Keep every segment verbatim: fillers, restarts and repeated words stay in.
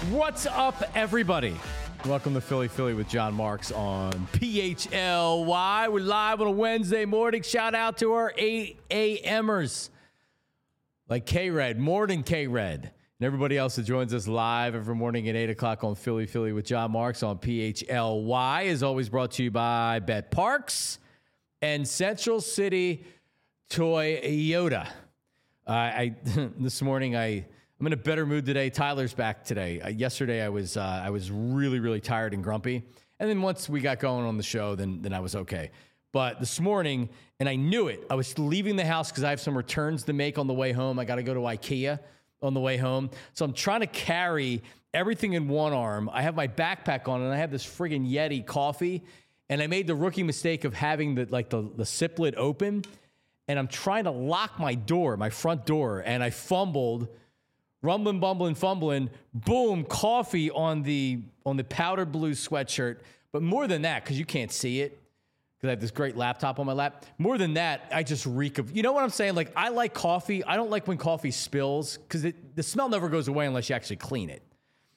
What's up, everybody? Welcome to Philly Philly with John Marks on P H L Y. We're live on a Wednesday morning. Shout out to our eight a.m.ers like K-Red, Morning K-Red, and everybody else that joins us live every morning at eight o'clock on Philly Philly with John Marks on P H L Y. Is always brought to you by Bet Parks and Central City Toyota. Uh, I this morning I. I'm in a better mood today. Tyler's back today. Uh, yesterday, I was uh, I was really, really tired and grumpy. And then once we got going on the show, then then I was okay. But this morning, and I knew it, I was leaving the house because I have some returns to make on the way home. I got to go to IKEA on the way home. So I'm trying to carry everything in one arm. I have my backpack on, and I have this friggin' Yeti coffee. And I made the rookie mistake of having the like the, the siplet open. And I'm trying to lock my door, my front door, and I fumbled. Rumbling, bumbling, fumbling, boom, coffee on the on the powder blue sweatshirt. But more than that, because you can't see it, because I have this great laptop on my lap. More than that, I just reek of, you know what I'm saying? Like, I like coffee. I don't like when coffee spills, because the smell never goes away unless you actually clean it.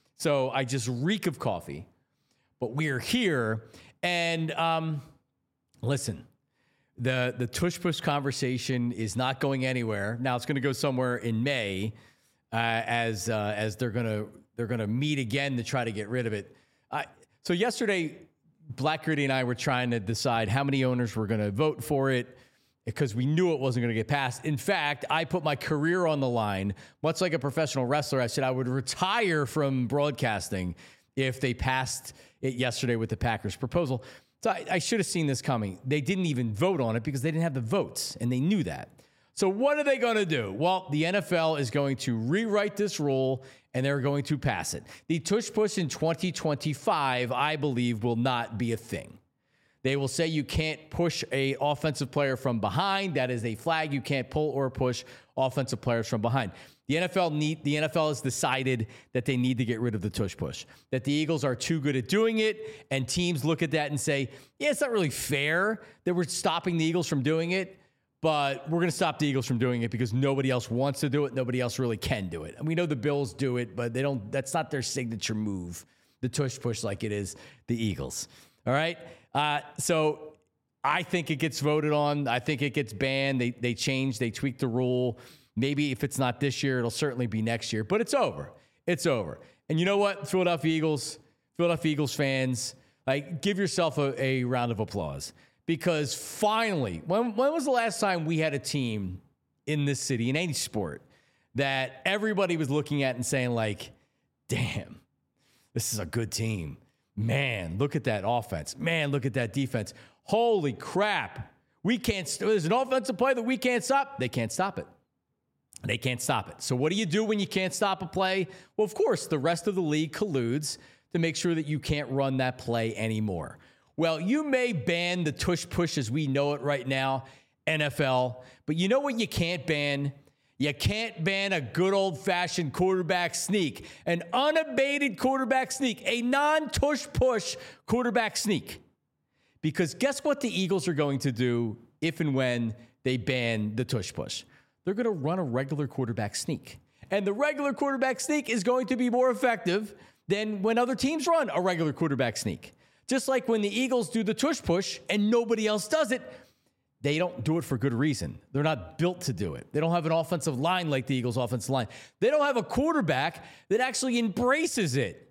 So I just reek of coffee. But we're here, and um, listen, the, the tush push conversation is not going anywhere. Now, it's going to go somewhere in May. Uh, as uh, as they're gonna they're gonna meet again to try to get rid of it. Uh, so yesterday, Black Gritty and I were trying to decide how many owners were gonna vote for it because we knew it wasn't gonna get passed. In fact, I put my career on the line, much like a professional wrestler. I said I would retire from broadcasting if they passed it yesterday with the Packers proposal. So I, I should have seen this coming. They didn't even vote on it because they didn't have the votes, and they knew that. So what are they going to do? Well, the N F L is going to rewrite this rule, and they're going to pass it. The tush push in twenty twenty-five, I believe, will not be a thing. They will say you can't push a offensive player from behind. That is a flag. You can't pull or push offensive players from behind. The N F L need, the N F L has decided that they need to get rid of the tush push, that the Eagles are too good at doing it, and teams look at that and say, yeah, it's not really fair that we're stopping the Eagles from doing it. But we're going to stop the Eagles from doing it because nobody else wants to do it. Nobody else really can do it. And we know the Bills do it, but they don't. That's not their signature move, the tush push, like it is the Eagles. All right. Uh, so I think it gets voted on. I think it gets banned. They they change. They tweak the rule. Maybe if it's not this year, it'll certainly be next year. But it's over. It's over. And you know what, Philadelphia Eagles, Philadelphia Eagles fans, like give yourself a, a round of applause. Because finally, when, when was the last time we had a team in this city, in any sport, that everybody was looking at and saying, like, damn, this is a good team. Man, look at that offense. Man, look at that defense. Holy crap. We can't, st- there's an offensive play that we can't stop. They can't stop it. They can't stop it. So what do you do when you can't stop a play? Well, of course, the rest of the league colludes to make sure that you can't run that play anymore. Well, you may ban the tush push as we know it right now, N F L, but you know what you can't ban? You can't ban a good old-fashioned quarterback sneak, an unabated quarterback sneak, a non-tush push quarterback sneak. Because guess what the Eagles are going to do if and when they ban the tush push? They're going to run a regular quarterback sneak. And the regular quarterback sneak is going to be more effective than when other teams run a regular quarterback sneak. Just like when the Eagles do the tush push and nobody else does it, they don't do it for good reason. They're not built to do it. They don't have an offensive line like the Eagles' offensive line. They don't have a quarterback that actually embraces it.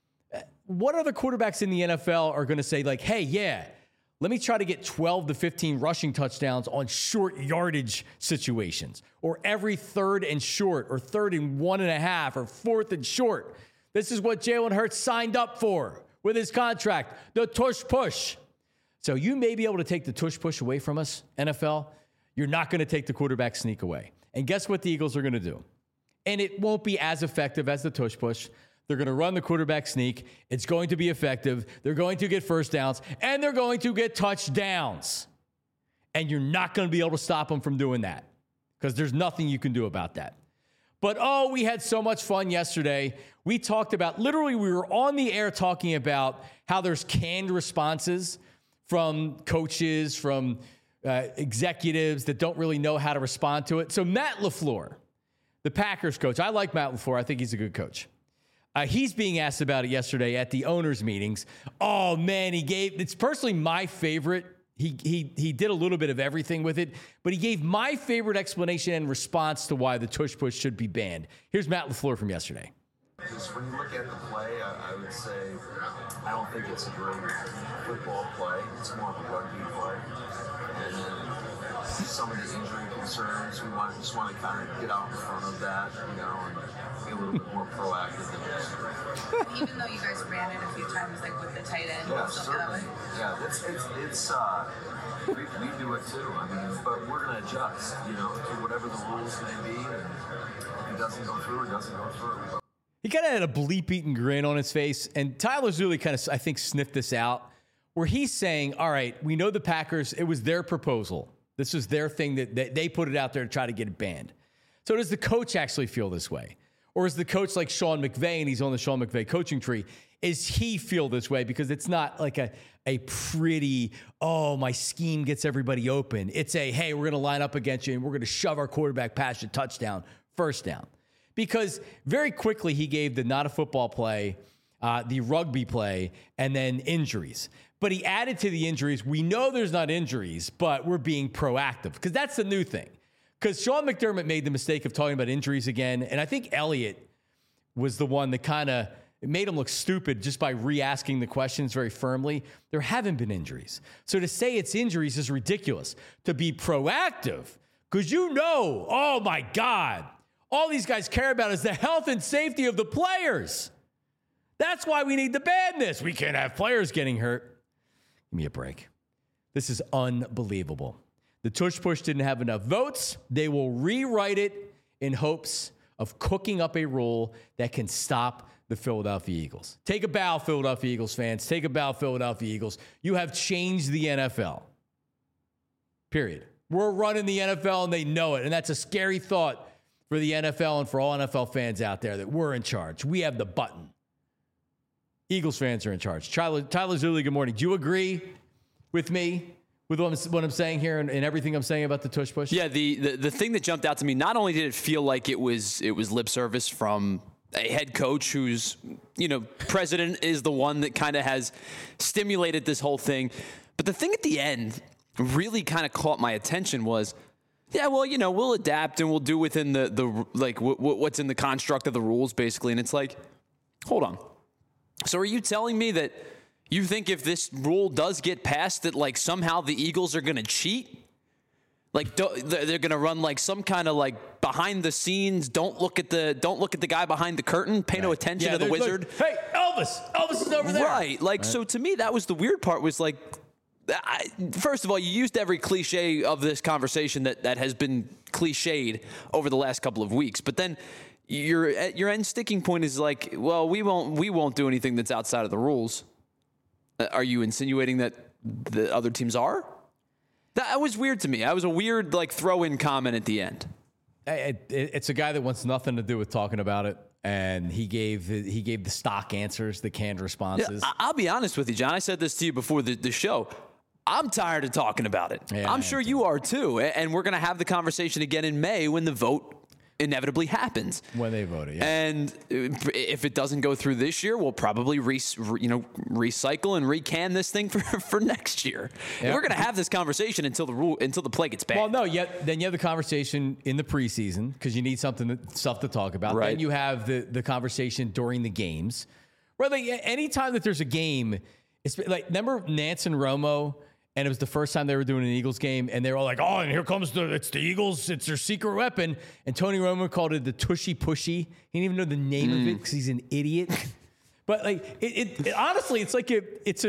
What other quarterbacks in the N F L are going to say, like, hey, yeah, let me try to get twelve to fifteen rushing touchdowns on short yardage situations, or every third and short, or third and one and a half, or fourth and short. This is what Jalen Hurts signed up for with his contract, the tush push. So you may be able to take the tush push away from us, N F L. You're not going to take the quarterback sneak away. And guess what the Eagles are going to do? And it won't be as effective as the tush push. They're going to run the quarterback sneak. It's going to be effective. They're going to get first downs, and they're going to get touchdowns. And you're not going to be able to stop them from doing that because there's nothing you can do about that. But, oh, we had so much fun yesterday. We talked about, literally, we were on the air talking about how there's canned responses from coaches, from uh, executives that don't really know how to respond to it. So Matt LaFleur, the Packers coach, I like Matt LaFleur. I think he's a good coach. Uh, he's being asked about it yesterday at the owners' meetings. Oh, man, he gave – it's personally my favorite. He, he, he did a little bit of everything with it, but he gave my favorite explanation and response to why the tush push should be banned. Here's Matt LaFleur from yesterday. Just when you look at the play, I, I would say I don't think it's a great football play. It's more of a rugby play. And then some of the injury concerns, we want just want to kind of get out in front of that, you know, and be a little bit more proactive than yesterday. Even though you guys ran it a few times, like with the tight end, Yeah, and stuff certainly. like that. Yeah, it's it's it's uh, we, we do it too. I mean, but we're gonna adjust, you know, to whatever the rules may be. And if it doesn't go through, it doesn't go through. He kind of had a bleep-eaten grin on his face, and Tyler's really kind of, I think, sniffed this out, where he's saying, all right, we know the Packers, it was their proposal. This was their thing that, that they put it out there to try to get it banned. So does the coach actually feel this way? Or is the coach like Sean McVay, and he's on the Sean McVay coaching tree, is he feel this way? Because it's not like a, a pretty, oh, my scheme gets everybody open. It's a, hey, we're going to line up against you, and we're going to shove our quarterback past you, touchdown, first down. Because very quickly he gave the not a football play, uh, the rugby play, and then injuries. But he added to the injuries. We know there's not injuries, but we're being proactive because that's the new thing. Because Sean McDermott made the mistake of talking about injuries again. And I think Elliott was the one that kind of made him look stupid just by re-asking the questions very firmly. There haven't been injuries. So to say it's injuries is ridiculous. To be proactive, because you know, oh my God, all these guys care about is the health and safety of the players. That's why we need to ban this. We can't have players getting hurt. Give me a break. This is unbelievable. The tush push didn't have enough votes. They will rewrite it in hopes of cooking up a rule that can stop the Philadelphia Eagles. Take a bow, Philadelphia Eagles fans. Take a bow, Philadelphia Eagles. You have changed the N F L. Period. We're running the N F L, and they know it. And that's a scary thought for the N F L and for all N F L fans out there that we're in charge. We have the button. Eagles fans are in charge. Tyler, Tyler Zulli, good morning. Do you agree with me with what I'm, what I'm saying here and, and everything I'm saying about the tush push? Yeah, the, the the thing that jumped out to me, not only did it feel like it was it was lip service from a head coach who's, you know, president is the one that kind of has stimulated this whole thing, but the thing at the end really kind of caught my attention was, yeah, well, you know, we'll adapt and we'll do within the, the like, w- w- what's in the construct of the rules, basically. And it's like, hold on. So are you telling me that you think if this rule does get passed that, like, somehow the Eagles are going to cheat? Like, they're going to run, like, some kind of, like, behind the scenes, don't look at the don't look at the guy behind the curtain, pay right. no attention yeah, to the wizard. Like, hey, Elvis, Elvis is over there. Right. Like, right. So to me, that was the weird part was, like, I, first of all, you used every cliche of this conversation that, that has been cliched over the last couple of weeks. But then your your end sticking point is like, well, we won't we won't do anything that's outside of the rules. Uh, are you insinuating that the other teams are? That was weird to me. That was a weird like throw-in comment at the end. It, it, it's a guy that wants nothing to do with talking about it. And he gave he gave the stock answers, the canned responses. Yeah, I'll be honest with you, John. I said this to you before the, the show. I'm tired of talking about it. Yeah, I'm sure you are too. And we're going to have the conversation again in May when the vote inevitably happens. When they vote it, yeah. And if it doesn't go through this year, we'll probably re, you know recycle and recan this thing for, for next year. Yep. We're going to have this conversation until the rule until the play gets banned. Well, no, yet then you have the conversation in the preseason because you need something to, stuff to talk about. Right. Then you have the the conversation during the games. Right, like anytime that there's a game, it's like remember Nance and Romo. And it was the first time they were doing an Eagles game, and they were all like, oh, and here comes the, it's the Eagles, it's their secret weapon. And Tony Romo called it the tushy pushy. He didn't even know the name mm. of it because he's an idiot. But like, it, it, it honestly, it's like a, it's a,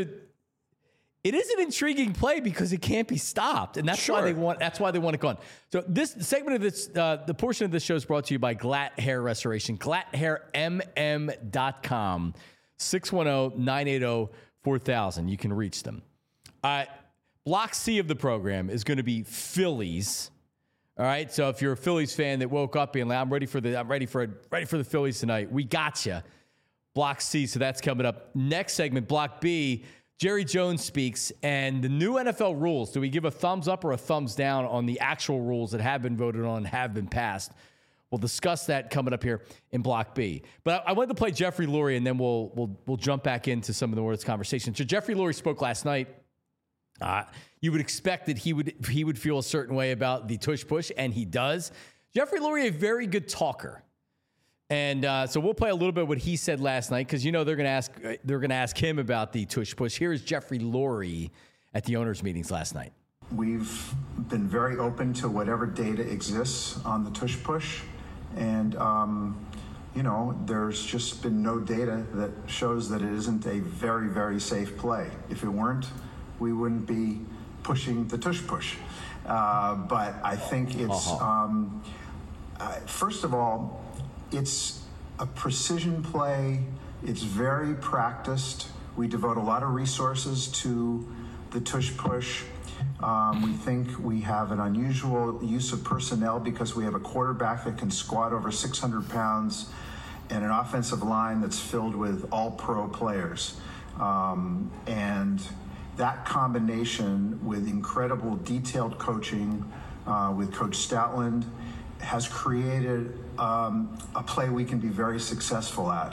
it is an intriguing play because it can't be stopped, and that's sure. why they want, that's why they want it gone. So this segment of this, uh, the portion of this show is brought to you by Glatt Hair Restoration, glatt hair m m dot com, six one zero, nine eight zero, four thousand. You can reach them. Uh, Block C of the program is going to be Phillies. All right. So if you're a Phillies fan that woke up being like, I'm ready for the, I'm ready for ready for the Phillies tonight. We got you. Block C. So that's coming up. Next segment, Block B. Jerry Jones speaks and the new N F L rules. Do we give a thumbs up or a thumbs down on the actual rules that have been voted on and have been passed? We'll discuss that coming up here in Block B. But I, I wanted to play Jeffrey Lurie, and then we'll we'll we'll jump back into some of the words conversation. So Jeffrey Lurie spoke last night. Uh, you would expect that he would he would feel a certain way about the tush push, and he does. Jeffrey Lurie, a very good talker. And uh, so we'll play a little bit of what he said last night, because you know they're going to ask they're going to ask him about the tush push. Here is Jeffrey Lurie at the owners' meetings last night. We've been very open to whatever data exists on the tush push, and um, you know there's just been no data that shows that it isn't a very very safe play. If it weren't, we wouldn't be pushing the tush push. Uh, but I think it's uh-huh. um, uh, first of all. It's a precision play. It's very practiced. We devote a lot of resources to the tush push. Um, we think we have an unusual use of personnel because we have a quarterback that can squat over six hundred pounds and an offensive line that's filled with all-pro players. Um, and that combination with incredible detailed coaching uh, with Coach Stoutland has created um, a play we can be very successful at.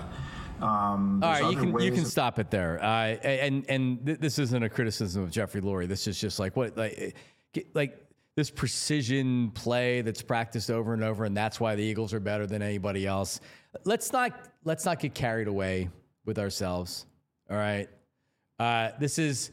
Um, All right, you can you can of- stop it there. Uh, and and th- this isn't a criticism of Jeffrey Lurie. This is just like what like like this precision play that's practiced over and over, and that's why the Eagles are better than anybody else. Let's not let's not get carried away with ourselves. All right, uh, this is.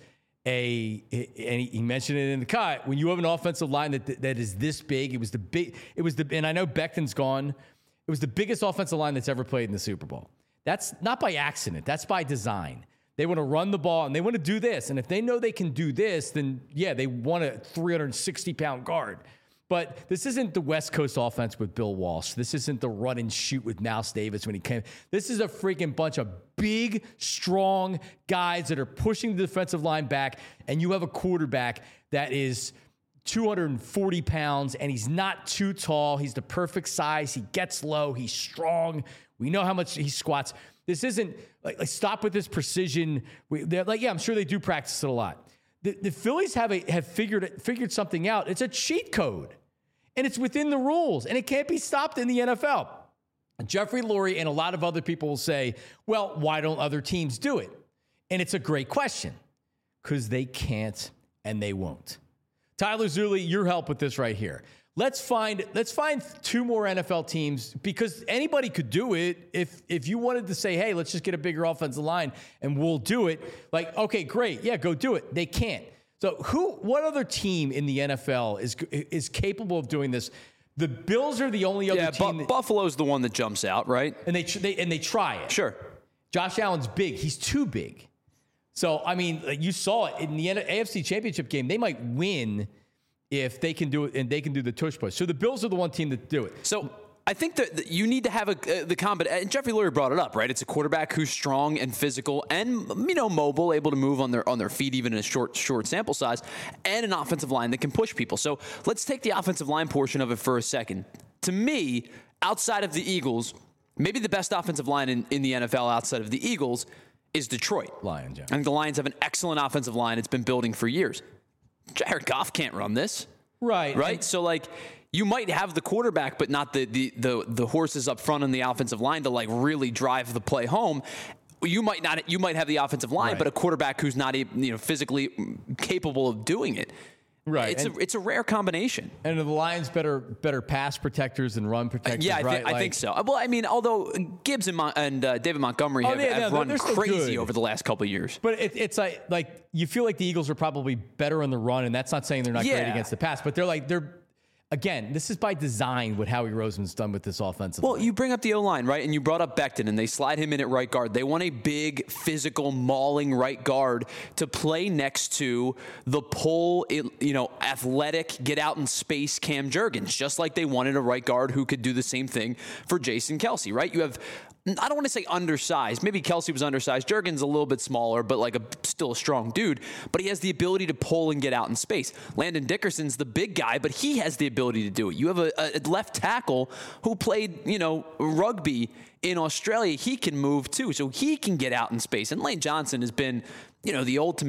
A and he mentioned it in the cut. When you have an offensive line that that is this big, it was the big. It was the and I know Becton's gone. It was the biggest offensive line that's ever played in the Super Bowl. That's not by accident. That's by design. They want to run the ball and they want to do this. And if they know they can do this, then yeah, they want a three hundred sixty pound guard. But this isn't the West Coast offense with Bill Walsh. This isn't the run and shoot with Mouse Davis when he came. This is a freaking bunch of big, strong guys that are pushing the defensive line back, and you have a quarterback that is two hundred forty pounds, and he's not too tall. He's the perfect size. He gets low. He's strong. We know how much he squats. This isn't like, like stop with this precision. We, they're like, yeah, I'm sure they do practice it a lot. The, the Phillies have a, have figured figured something out. It's a cheat code, and it's within the rules, and it can't be stopped in the N F L. Jeffrey Lurie and a lot of other people will say, well, why don't other teams do it? And it's a great question, because they can't and they won't. Tyler Zulli, your help with this right here. Let's find let's find two more N F L teams, because anybody could do it. If if you wanted to say, hey, let's just get a bigger offensive line and we'll do it. Like, okay, great. Yeah, go do it. They can't. So who, what other team in the N F L is is capable of doing this? The Bills are the only other yeah, team. Bu- that, Buffalo's the one that jumps out, right? and they, they and they try it. Sure. Josh Allen's big. He's too big. So I mean, you saw it in the A F C Championship game. They might win if they can do it, and they can do the tush push. So the Bills are the one team that do it. So I think that that you need to have a uh, the combat. And Jeffrey Lurie brought it up, right? It's a quarterback who's strong and physical, and you know mobile, able to move on their on their feet even in a short short sample size, and an offensive line that can push people. So let's take the offensive line portion of it for a second. To me, outside of the Eagles, maybe the best offensive line in, in the N F L outside of the Eagles is Detroit. Lions, yeah. I think the Lions have an excellent offensive line. It's been building for years. Jared Goff can't run this. Right. Right? And, so, like, you might have the quarterback, but not the, the the the horses up front on the offensive line to, like, really drive the play home. You might not. You might have the offensive line, right. but a quarterback who's not, you know, physically capable of doing it. Right. It's and, a it's a rare combination. And are the Lions better better pass protectors than run protectors? Yeah, I, right? th- I like, think so. Well, I mean, although Gibbs and, Mon- and uh, David Montgomery Oh, have, yeah, have no, run they're still crazy good. over the last couple of years. But it, it's like like you feel like the Eagles are probably better on the run, and that's not saying they're not Yeah. great against the pass, but they're like they're. Again, this is by design what Howie Roseman's done with this offensive Well, line. you bring up the O-line, right? And you brought up Becton, and they slide him in at right guard. They want a big, physical, mauling right guard to play next to the pull, you know, athletic, get out in space Cam Jurgens, just like they wanted a right guard who could do the same thing for Jason Kelce, right? You have, I don't want to say undersized. Maybe Kelce was undersized. Jurgens a little bit smaller, but like a still a strong dude. But he has the ability to pull and get out in space. Landon Dickerson's the big guy, but he has the ability to do it. You have a, a left tackle who played, you know, rugby in Australia. He can move too, so he can get out in space. And Lane Johnson has been, you know, the ultimate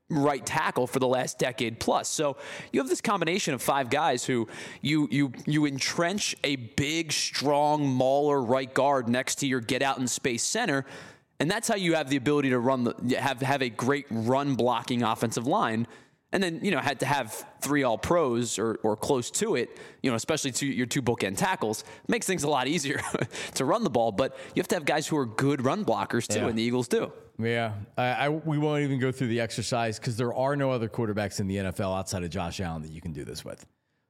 right tackle for the last decade plus. So you have this combination of five guys who you you you entrench a big, strong, mauler right guard next to your get out in space center, and that's how you have the ability to run the have have a great run blocking offensive line. And then, you know, had to have three all pros or, or close to it, you know, especially to your two bookend tackles, makes things a lot easier to run the ball. But you have to have guys who are good run blockers too, yeah. and the Eagles do. Yeah, I, I we won't even go through the exercise because there are no other quarterbacks in the N F L outside of Josh Allen that you can do this with.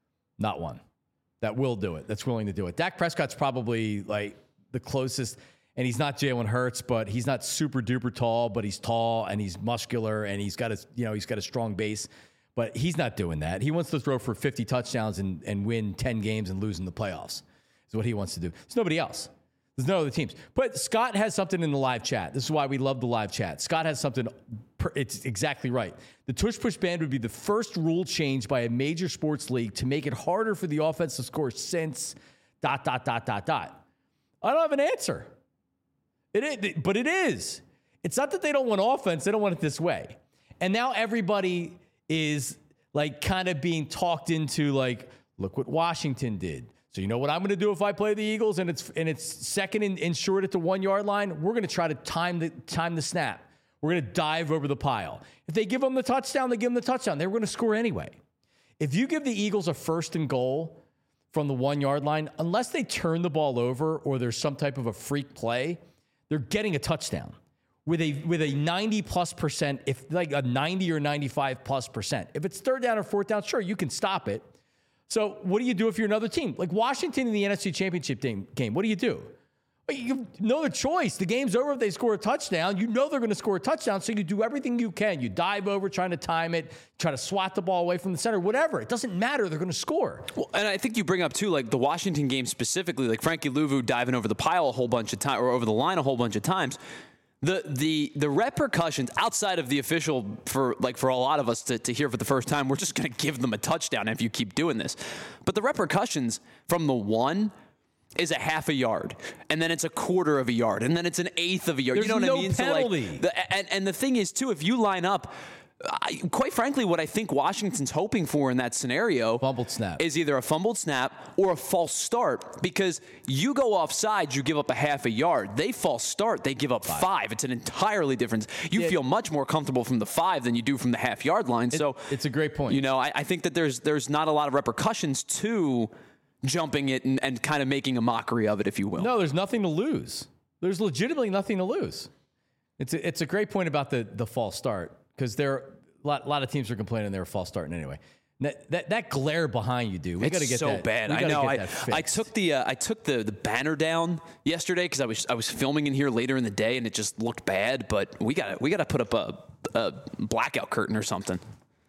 Not one that will do it, that's willing to do it. Dak Prescott's probably like the closest. And he's not Jalen Hurts, but he's not super duper tall, but he's tall and he's muscular and he's got a, you know, he's got a strong base, but he's not doing that. He wants to throw for fifty touchdowns and, and win ten games and lose in the playoffs is what he wants to do. There's nobody else. There's no other teams. But Scott has something in the live chat. This is why we love the live chat. Scott has something. Per, it's exactly right. The tush push ban would be the first rule change by a major sports league to make it harder for the offense to score since dot, dot, dot, dot, dot. I don't have an answer. It is, but it is. It's not that they don't want offense. They don't want it this way. And now everybody is like kind of being talked into like, look what Washington did. So you know what I'm going to do if I play the Eagles and it's and it's second and, and short at the one yard line? We're going to try to time the time the snap. We're going to dive over the pile. If they give them the touchdown, they give them the touchdown. They were going to score anyway. If you give the Eagles a first and goal from the one yard line, unless they turn the ball over or there's some type of a freak play, they're getting a touchdown with a with a ninety plus percent, if like a ninety or ninety-five plus percent. If it's third down or fourth down, sure, you can stop it. So what do you do if you're another team? Like Washington in the N F C Championship game, what do you do? You have no other choice. The game's over if they score a touchdown. You know they're going to score a touchdown, so you do everything you can. You dive over, trying to time it, try to swat the ball away from the center, whatever. It doesn't matter. They're going to score. Well, and I think you bring up, too, like the Washington game specifically, like Frankie Louvu diving over the pile a whole bunch of times, or over the line a whole bunch of times. The the the repercussions outside of the official, for like for a lot of us to, to hear for the first time, we're just going to give them a touchdown if you keep doing this. But the repercussions from the one is a half a yard, and then it's a quarter of a yard, and then it's an eighth of a yard. There's you know what no I mean? penalty. So like the, and, and the thing is, too, if you line up, I, quite frankly, what I think Washington's hoping for in that scenario fumbled snap. is either a fumbled snap or a false start, because you go offside, you give up a half a yard. They false start, they give up five. five. It's an entirely different. You yeah. feel much more comfortable from the five than you do from the half yard line. It, so it's a great point. You know, I, I think that there's there's not a lot of repercussions to jumping it and, and kind of making a mockery of it, if you will. No, there's nothing to lose. There's legitimately nothing to lose. It's a, it's a great point about the the false start, because there a lot, a lot of teams are complaining they're a false starting anyway. That, that that glare behind you, dude. We got to get so that. bad. I know. I, I took the uh, I took the, the banner down yesterday because I was I was filming in here later in the day and it just looked bad. But we got we got to put up a, a blackout curtain or something.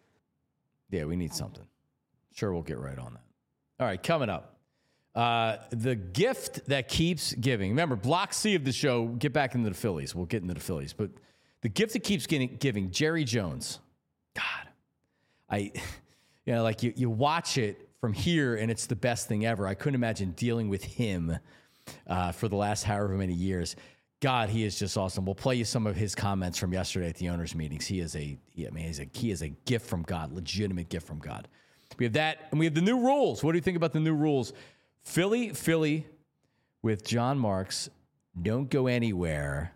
Yeah, we need something. Sure, we'll get right on that. All right, coming up, uh, the gift that keeps giving. Remember, Block C of the show. Get back into the Phillies. We'll get into the Phillies, but the gift that keeps getting, giving. Jerry Jones. God, I. You know, like you, you watch it from here and it's the best thing ever. I couldn't imagine dealing with him uh, for the last however many years. God, he is just awesome. We'll play you some of his comments from yesterday at the owners' meetings. He is a, he, I mean, he's a, he is a gift from God, legitimate gift from God. We have that, and we have the new rules. What do you think about the new rules? Philly, Philly with John Marks. Don't go anywhere.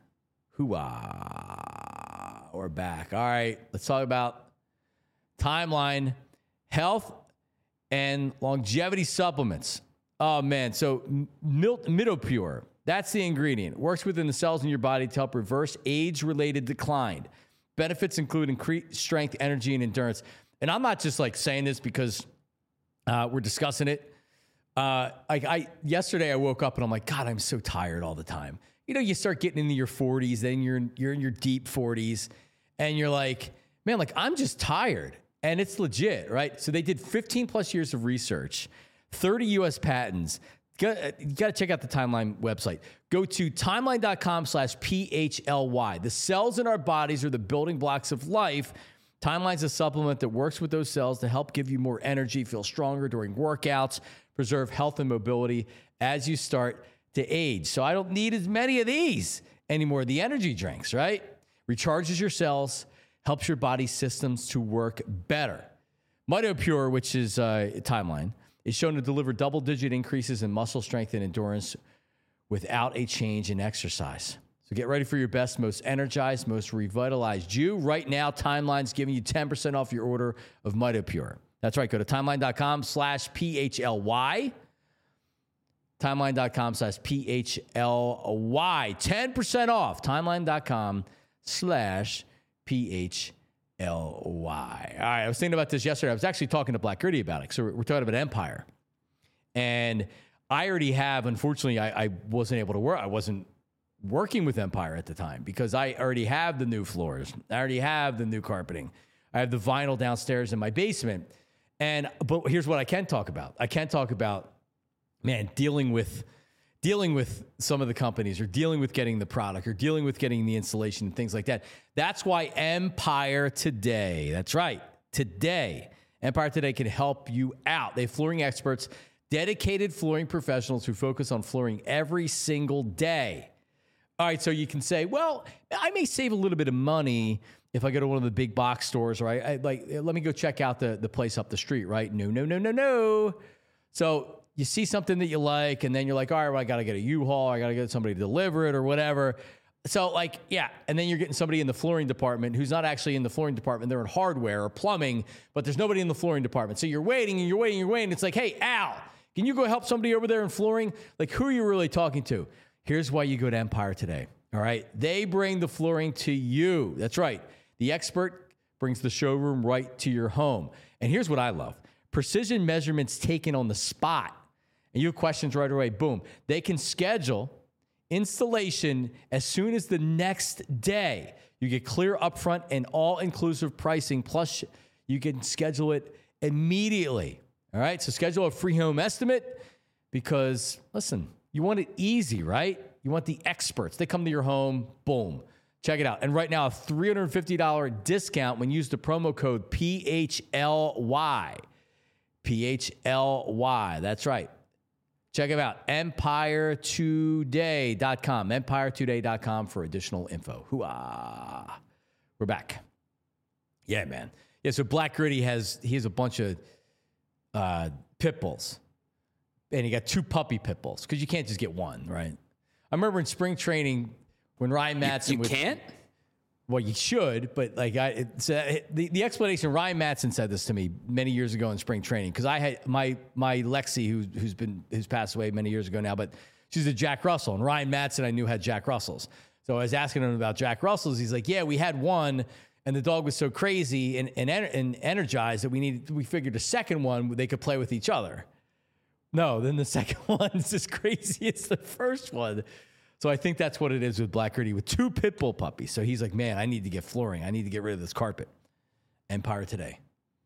Hoo-ah. We're back. All right, let's talk about timeline. Health and longevity supplements. Oh, man. So Milt, Midopure, that's the ingredient. It works within the cells in your body to help reverse age-related decline. Benefits include increased strength, energy, and endurance. And I'm not just like saying this because uh, we're discussing it. Uh, I, I yesterday I woke up and I'm like, God, I'm so tired all the time. You know, you start getting into your forties, then you're you're in your deep forties, and you're like, man, like I'm just tired. And it's legit, right? So they did fifteen plus years of research, thirty U S patents. You got to check out the Timeline website. Go to timeline.com slash PHLY. The cells in our bodies are the building blocks of life. Timeline's a supplement that works with those cells to help give you more energy, feel stronger during workouts, preserve health and mobility as you start to age. So I don't need as many of these anymore. The energy drinks, right? Recharges your cells, helps your body's systems to work better. MitoPure, which is uh, Timeline, is shown to deliver double-digit increases in muscle strength and endurance without a change in exercise. So get ready for your best, most energized, most revitalized you. Right now, Timeline's giving you ten percent off your order of MitoPure. That's right. Go to timeline.com slash P-H-L-Y. Timeline.com slash P-H-L-Y. ten percent off. Timeline.com slash P-H-L-Y. All right. I was thinking about this yesterday. I was actually talking to Black Gritty about it. So we're talking about Empire. And I already have, unfortunately, I, I wasn't able to work. I wasn't working with Empire at the time because I already have the new floors. I already have the new carpeting. I have the vinyl downstairs in my basement. And but here's what I can talk about. I can talk about, man, dealing with dealing with some of the companies or dealing with getting the product or dealing with getting the installation and things like that. That's why Empire Today, that's right, today, Empire Today can help you out. They have flooring experts, dedicated flooring professionals who focus on flooring every single day. All right, so you can say, well, I may save a little bit of money if I go to one of the big box stores, right? I, like, let me go check out the, the place up the street, right? No, no, no, no, no. So you see something that you like, and then you're like, all right, well, I got to get a U-Haul. I got to get somebody to deliver it or whatever. So, like, yeah, and then you're getting somebody in the flooring department who's not actually in the flooring department. They're in hardware or plumbing, but there's nobody in the flooring department. So you're waiting and you're waiting and you're waiting. It's like, hey, Al, can you go help somebody over there in flooring? Like, who are you really talking to? Here's why you go to Empire Today, all right? They bring the flooring to you. That's right. The expert brings the showroom right to your home. And here's what I love. Precision measurements taken on the spot. And you have questions right away, boom. They can schedule installation as soon as the next day. You get clear upfront and all-inclusive pricing, plus you can schedule it immediately. All right, so schedule a free home estimate because, listen, you want it easy, right? You want the experts. They come to your home, boom. Check it out. And right now, a three hundred fifty dollars discount when you use the promo code P H L Y. P H L Y, that's right. Check it out, empire today dot com, empire today dot com for additional info. Hoo-ah. We're back. Yeah, man. Yeah, so Black Gritty has, he has a bunch of uh, pit bulls. And he got two puppy pit bulls because you can't just get one, right? I remember in spring training when Ryan Matson... You, you was, can't? Well, you should, but like I, it's, uh, the the explanation. Ryan Matson said this to me many years ago in spring training because I had my my Lexi who who's been who's passed away many years ago now, but she's a Jack Russell, and Ryan Matson I knew had Jack Russells, so I was asking him about Jack Russells. He's like, yeah, we had one, and the dog was so crazy and and, and energized that we needed we figured a second one they could play with each other. No, then the second one is as crazy as the first one. So I think that's what it is with Black Gritty with two pit bull puppies. So he's like, man, I need to get flooring. I need to get rid of this carpet. Empire Today.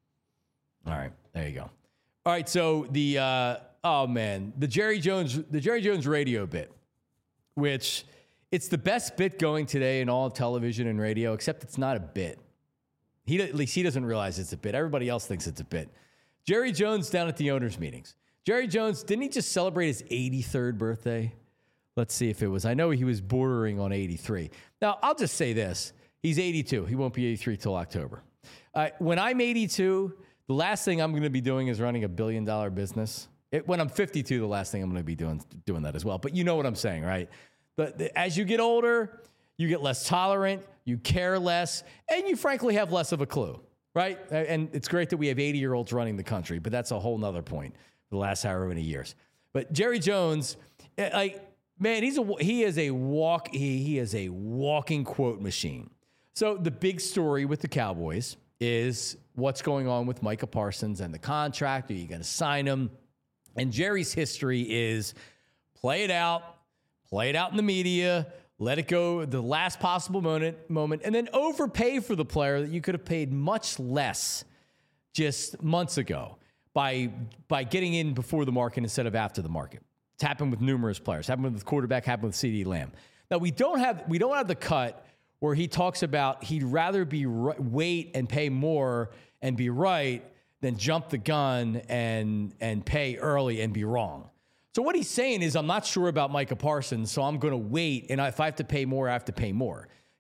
All right, there you go. All right, so the uh, oh man, the Jerry Jones, the Jerry Jones radio bit, which it's the best bit going today in all of television and radio, except it's not a bit. He at least he doesn't realize it's a bit. Everybody else thinks it's a bit. Jerry Jones down at the owners' meetings. Jerry Jones, didn't he just celebrate his eighty-third birthday? Let's see if it was. I know he was bordering on eighty-three. Now, I'll just say this. He's eighty-two. He won't be eighty-three till October. Uh, when I'm eighty-two, the last thing I'm going to be doing is running a billion-dollar business. It, when I'm fifty-two, the last thing I'm going to be doing doing that as well. But you know what I'm saying, right? But the, as you get older, you get less tolerant, you care less, and you frankly have less of a clue, right? And it's great that we have eighty-year-olds running the country, but that's a whole nother point for the last however many years. But Jerry Jones, like... Man, he's a he is a walk he, he is a walking quote machine. So the big story with the Cowboys is what's going on with Micah Parsons and the contract. Are you going to sign him? And Jerry's history is play it out, play it out in the media, let it go the last possible moment, moment, and then overpay for the player that you could have paid much less just months ago by by getting in before the market instead of after the market. It's happened with numerous players. Happened with the quarterback. Happened with CeeDee Lamb. Now we don't have we don't have the cut where he talks about he'd rather be right, wait and pay more and be right than jump the gun and and pay early and be wrong. So what he's saying is I'm not sure about Micah Parsons, so I'm going to wait, and if I have to pay more, I have to pay more.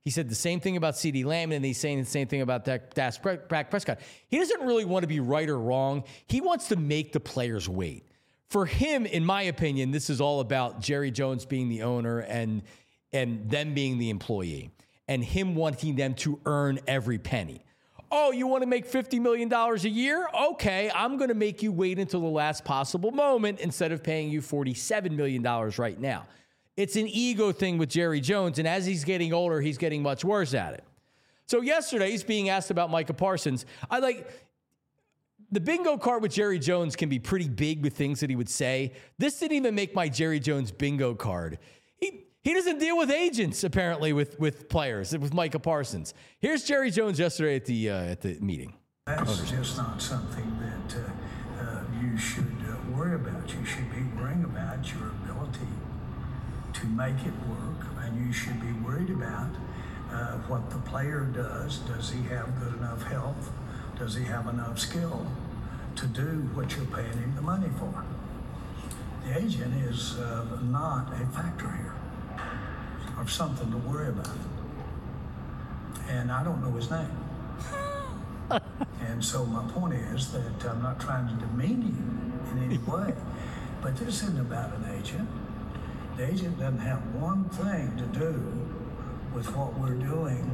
He said the same thing about CeeDee Lamb, and he's saying the same thing about Dak Prescott. He doesn't really want to be right or wrong. He wants to make the players wait. For him, in my opinion, this is all about Jerry Jones being the owner and and them being the employee, and him wanting them to earn every penny. Oh, you want to make fifty million dollars a year? Okay, I'm going to make you wait until the last possible moment instead of paying you forty-seven million dollars right now. It's an ego thing with Jerry Jones, and as he's getting older, he's getting much worse at it. So yesterday, he's being asked about Micah Parsons. I like the bingo card with Jerry Jones can be pretty big with things that he would say. This didn't even make my Jerry Jones bingo card. He he doesn't deal with agents apparently with with players with Micah Parsons. Here's Jerry Jones yesterday at the uh, at the meeting. That's just not something that uh, uh, you should uh, worry about. You should be worrying about your ability to make it work, and you should be worried about uh, what the player does. Does he have good enough health? Does he have enough skill to do what you're paying him the money for? The agent is uh, not a factor here, or something to worry about. And I don't know his name. And so my point is that I'm not trying to demean you in any way, but this isn't about an agent. The agent doesn't have one thing to do with what we're doing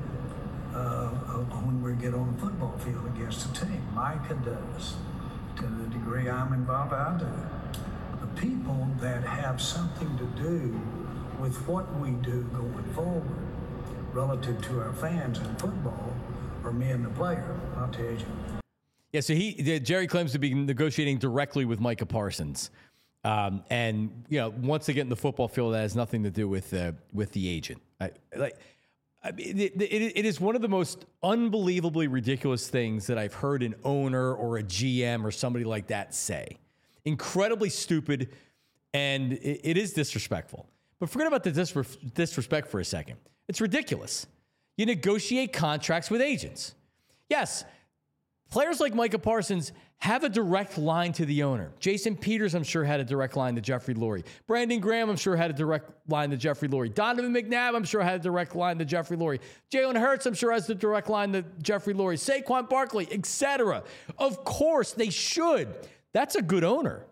uh, when we get on the football field against a team. Micah does. To the degree I'm involved, I do. The people that have something to do with what we do going forward relative to our fans in football are me and the player, not the agent. Yeah, so he Jerry claims to be negotiating directly with Micah Parsons. Um, and, you know, once they get in the football field, that has nothing to do with uh, with the agent. I, like, I mean, it, it, it is one of the most unbelievably ridiculous things that I've heard an owner or a G M or somebody like that say. Incredibly stupid, and it, it is disrespectful. But forget about the disre- disrespect for a second. It's ridiculous. You negotiate contracts with agents. Yes, players like Micah Parsons have a direct line to the owner. Jason Peters, I'm sure, had a direct line to Jeffrey Lurie. Brandon Graham, I'm sure, had a direct line to Jeffrey Lurie. Donovan McNabb, I'm sure, had a direct line to Jeffrey Lurie. Jalen Hurts, I'm sure, has a direct line to Jeffrey Lurie. Saquon Barkley, et cetera. Of course, they should. That's a good owner.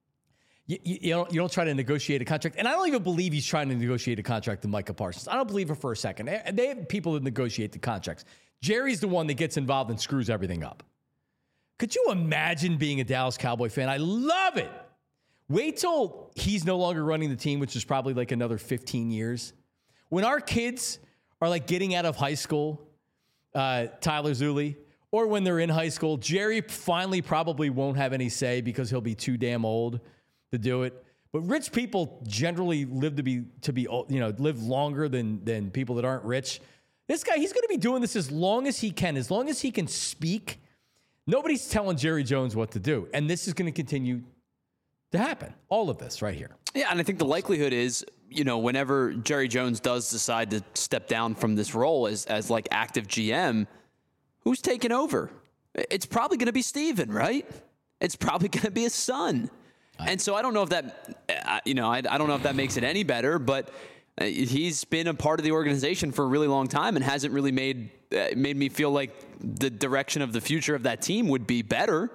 You, you, you, don't, you don't try to negotiate a contract. And I don't even believe he's trying to negotiate a contract with Micah Parsons. I don't believe it for a second. They, they have people that negotiate the contracts. Jerry's the one that gets involved and screws everything up. Could you imagine being a Dallas Cowboy fan? I love it. Wait till he's no longer running the team, which is probably like another fifteen years. When our kids are like getting out of high school, uh, Tyler Zulli, or when they're in high school, Jerry finally probably won't have any say because he'll be too damn old to do it. But rich people generally live to be to be you know live longer than than people that aren't rich. This guy, he's going to be doing this as long as he can, as long as he can speak. Nobody's telling Jerry Jones what to do. And this is going to continue to happen. All of this right here. Yeah, and I think the likelihood is, you know, whenever Jerry Jones does decide to step down from this role as, as like active G M, who's taking over? It's probably going to be Steven, right? It's probably going to be his son. And so I don't know if that, you know, I, I don't know if that makes it any better, but he's been a part of the organization for a really long time and hasn't really made uh, made me feel like the direction of the future of that team would be better.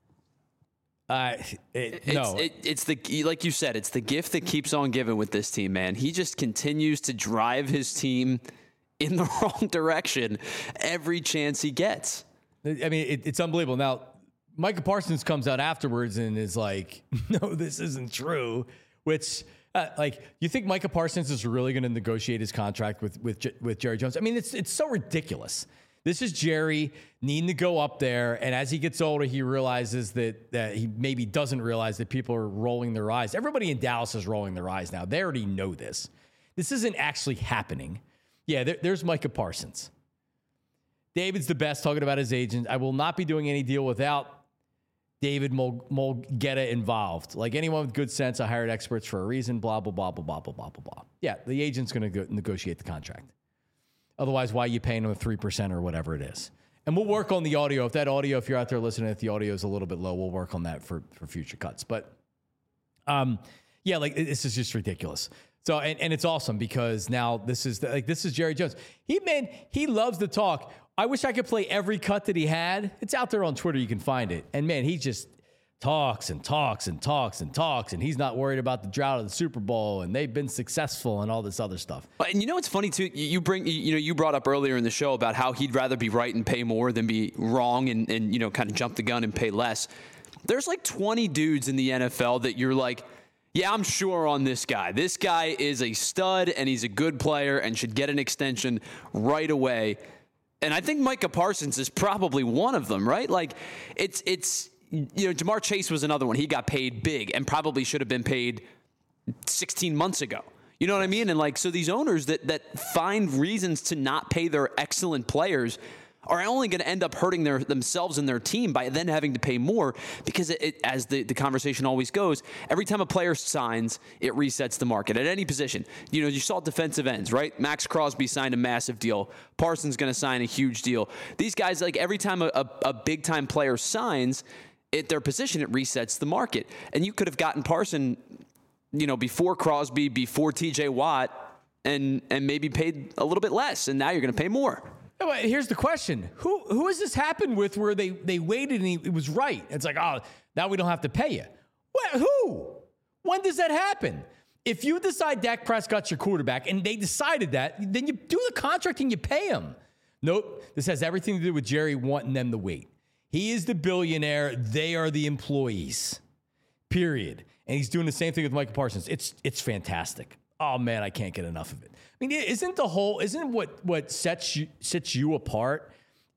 Uh, it, no, it's, it, it's the like you said, it's the gift that keeps on giving with this team, man. He just continues to drive his team in the wrong direction every chance he gets. I mean, it, it's unbelievable. Now, Micah Parsons comes out afterwards and is like, "No, this isn't true," which. Uh, like, you think Micah Parsons is really going to negotiate his contract with with with Jerry Jones? I mean, it's it's so ridiculous. This is Jerry needing to go up there, and as he gets older, he realizes that that he maybe doesn't realize that people are rolling their eyes. Everybody in Dallas is rolling their eyes now. They already know this. This isn't actually happening. Yeah, there, there's Micah Parsons. David's the best, talking about his agent. I will not be doing any deal without David Mulugheta involved. Like anyone with good sense, I hired experts for a reason, blah, blah, blah, blah, blah, blah, blah, blah, blah. Yeah, the agent's going to negotiate the contract. Otherwise, why are you paying them three percent or whatever it is? And we'll work on the audio. If that audio, if you're out there listening, if the audio is a little bit low, we'll work on that for, for future cuts. But, um, yeah, like this is just ridiculous. So, and, and it's awesome because now this is the, like, this is Jerry Jones. He, man, he loves to talk. I wish I could play every cut that he had. It's out there on Twitter. You can find it. And man, he just talks and talks and talks and talks. And he's not worried about the drought of the Super Bowl. And they've been successful and all this other stuff. And you know, what's funny too, you bring, you know, you brought up earlier in the show about how he'd rather be right and pay more than be wrong and, and, you know, kind of jump the gun and pay less. There's like twenty dudes in the N F L that you're like, yeah, I'm sure on this guy. This guy is a stud, and he's a good player and should get an extension right away. And I think Micah Parsons is probably one of them, right? Like, it's, it's you know, Jamar Chase was another one. He got paid big and probably should have been paid sixteen months ago. You know what I mean? And, like, so these owners that that find reasons to not pay their excellent players are only going to end up hurting their themselves and their team by then having to pay more because, it, it, as the, the conversation always goes, every time a player signs, it resets the market at any position. You know, you saw defensive ends, right? Max Crosby signed a massive deal. Parsons going to sign a huge deal. These guys, like every time a, a, a big-time player signs at their position, it resets the market. And you could have gotten Parson, you know, before Crosby, before T J Watt, and and maybe paid a little bit less, and now you're going to pay more. Here's the question. Who who has this happened with where they, they waited and he, it was right? It's like, oh, now we don't have to pay you. What, who? When does that happen? If you decide Dak Prescott's your quarterback and they decided that, then you do the contract and you pay him. Nope. This has everything to do with Jerry wanting them to wait. He is the billionaire. They are the employees. Period. And he's doing the same thing with Micah Parsons. It's it's fantastic. Oh man, I can't get enough of it. I mean, isn't the whole, isn't what what sets you sets you apart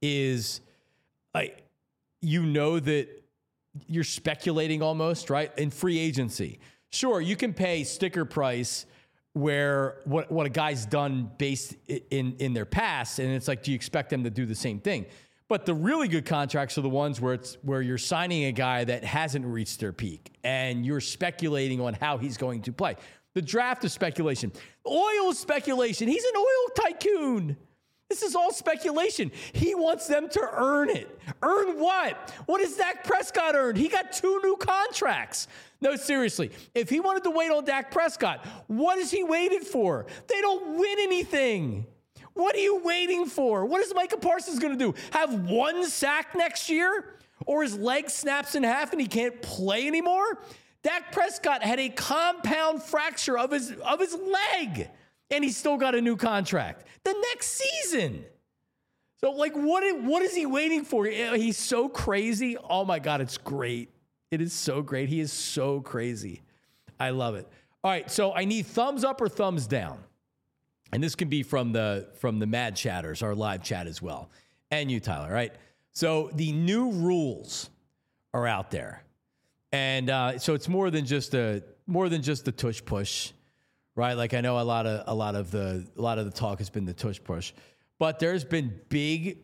is, like, you know that you're speculating almost, right? In free agency, sure, you can pay sticker price where what what a guy's done based in in their past, and it's like, do you expect them to do the same thing? But the really good contracts are the ones where it's where you're signing a guy that hasn't reached their peak, and you're speculating on how he's going to play. The draft is speculation. Oil is speculation. He's an oil tycoon. This is all speculation. He wants them to earn it. Earn what? What has Dak Prescott earned? He got two new contracts. No, seriously. If he wanted to wait on Dak Prescott, what is he waiting for? They don't win anything. What are you waiting for? What is Micah Parsons going to do? Have one sack next year? Or his leg snaps in half and he can't play anymore? Dak Prescott had a compound fracture of his of his leg, and he still got a new contract the next season. So, like, what, what is he waiting for? He's so crazy. Oh, my God, it's great. It is so great. He is so crazy. I love it. All right, so I need thumbs up or thumbs down. And this can be from the from the Mad Chatters, our live chat as well. And you, Tyler, right? So the new rules are out there. And uh, so it's more than just a more than just the tush push, right? Like, I know a lot of a lot of the a lot of the talk has been the tush push, but there's been big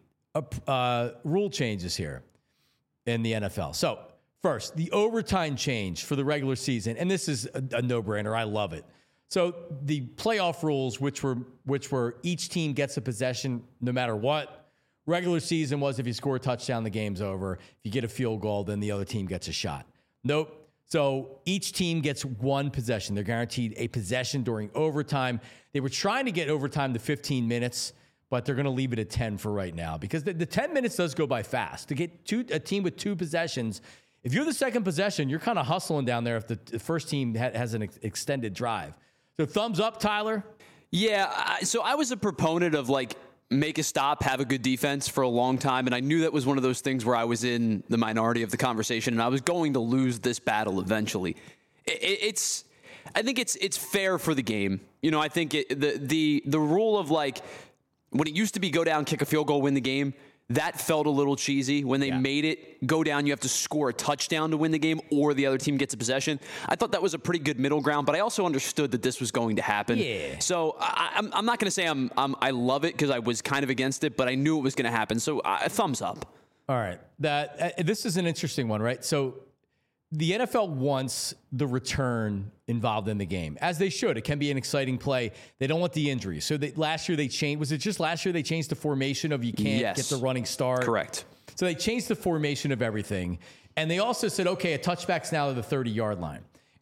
uh, rule changes here in the N F L. So first, the overtime change for the regular season, and this is a, a no-brainer. I love it. So the playoff rules, which were which were each team gets a possession no matter what. Regular season was if you score a touchdown, the game's over. If you get a field goal, then the other team gets a shot. Nope. So each team gets one possession. They're guaranteed a possession during overtime. They were trying to get overtime to fifteen minutes, but they're going to leave it at ten for right now because the, the ten minutes does go by fast. To get two, a team with two possessions, if you're the second possession, you're kind of hustling down there if the, the first team ha- has an ex- extended drive. So thumbs up, Tyler? Yeah, I, so I was a proponent of, like, make a stop, have a good defense for a long time. And I knew that was one of those things where I was in the minority of the conversation and I was going to lose this battle eventually. It, it's, I think it's, it's fair for the game. You know, I think it, the, the, the rule of, like, when it used to be go down, kick a field goal, win the game, that felt a little cheesy. When they yeah. made it go down, you have to score a touchdown to win the game or the other team gets a possession. I thought that was a pretty good middle ground, but I also understood that this was going to happen. Yeah. So I, I'm, I'm not going to say I'm, I'm, I love it because I was kind of against it, but I knew it was going to happen. So uh, thumbs up. All right. That uh, this is an interesting one, right? So the N F L wants the return involved in the game, as they should. It can be an exciting play. They don't want the injury. So they, last year they changed. Was it just last year they changed the formation of you can't yes. get the running start? Correct. So they changed the formation of everything. And they also said, okay, a touchback's now at the thirty-yard line.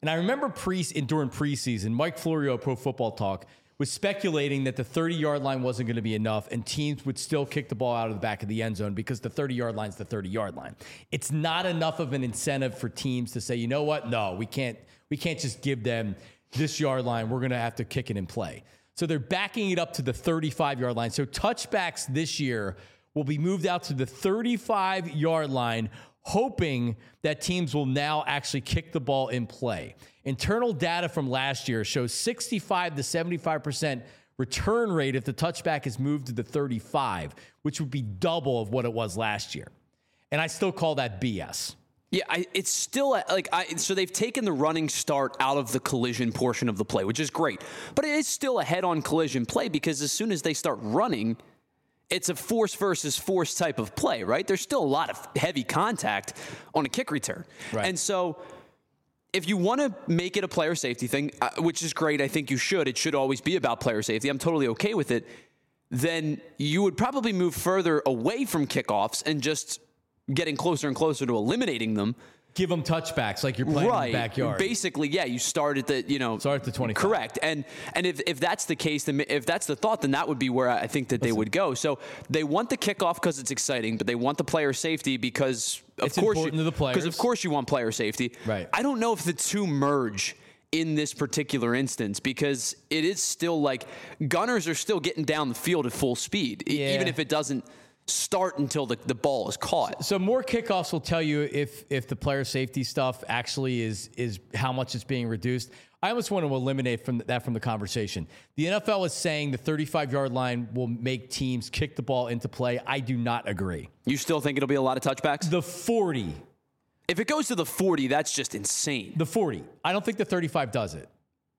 And I remember pre during preseason, Mike Florio, Pro Football Talk, was speculating that the thirty-yard line wasn't going to be enough and teams would still kick the ball out of the back of the end zone because the thirty-yard line is the thirty-yard line. It's not enough of an incentive for teams to say, you know what? No, we can't, we can't just give them this yard line. We're going to have to kick it in play. So they're backing it up to the thirty-five-yard line. So touchbacks this year will be moved out to the thirty-five-yard line, hoping that teams will now actually kick the ball in play. Internal data from last year shows sixty-five to seventy-five percent return rate if the touchback is moved to the thirty-five, which would be double of what it was last year. And I still call that B S. Yeah, I, it's still like I. So they've taken the running start out of the collision portion of the play, which is great. But it is still a head-on collision play because as soon as they start running, it's a force versus force type of play, right? There's still a lot of heavy contact on a kick return. Right. And so if you want to make it a player safety thing, uh, which is great, I think you should. It should always be about player safety. I'm totally okay with it. Then you would probably move further away from kickoffs and just getting closer and closer to eliminating them. Give them touchbacks like you're playing right. in the backyard. Basically, yeah, you start at the, you know. Start at the twenty-five. Correct. And and if, if that's the case, then if that's the thought, then that would be where I think that Listen. they would go. So they want the kickoff because it's exciting, but they want the player safety because, of it's course, important you, to the players. Because, of course, you want player safety. Right. I don't know if the two merge in this particular instance because it is still like gunners are still getting down the field at full speed, yeah. even if it doesn't start until the, the ball is caught. So more kickoffs will tell you if if the player safety stuff actually is is how much it's being reduced. I almost want to eliminate from that from the conversation. The N F L is saying the thirty-five-yard line will make teams kick the ball into play. I do not agree. You still think it'll be a lot of touchbacks? The forty. If it goes to the forty, that's just insane. The forty. I don't think the thirty-five does it.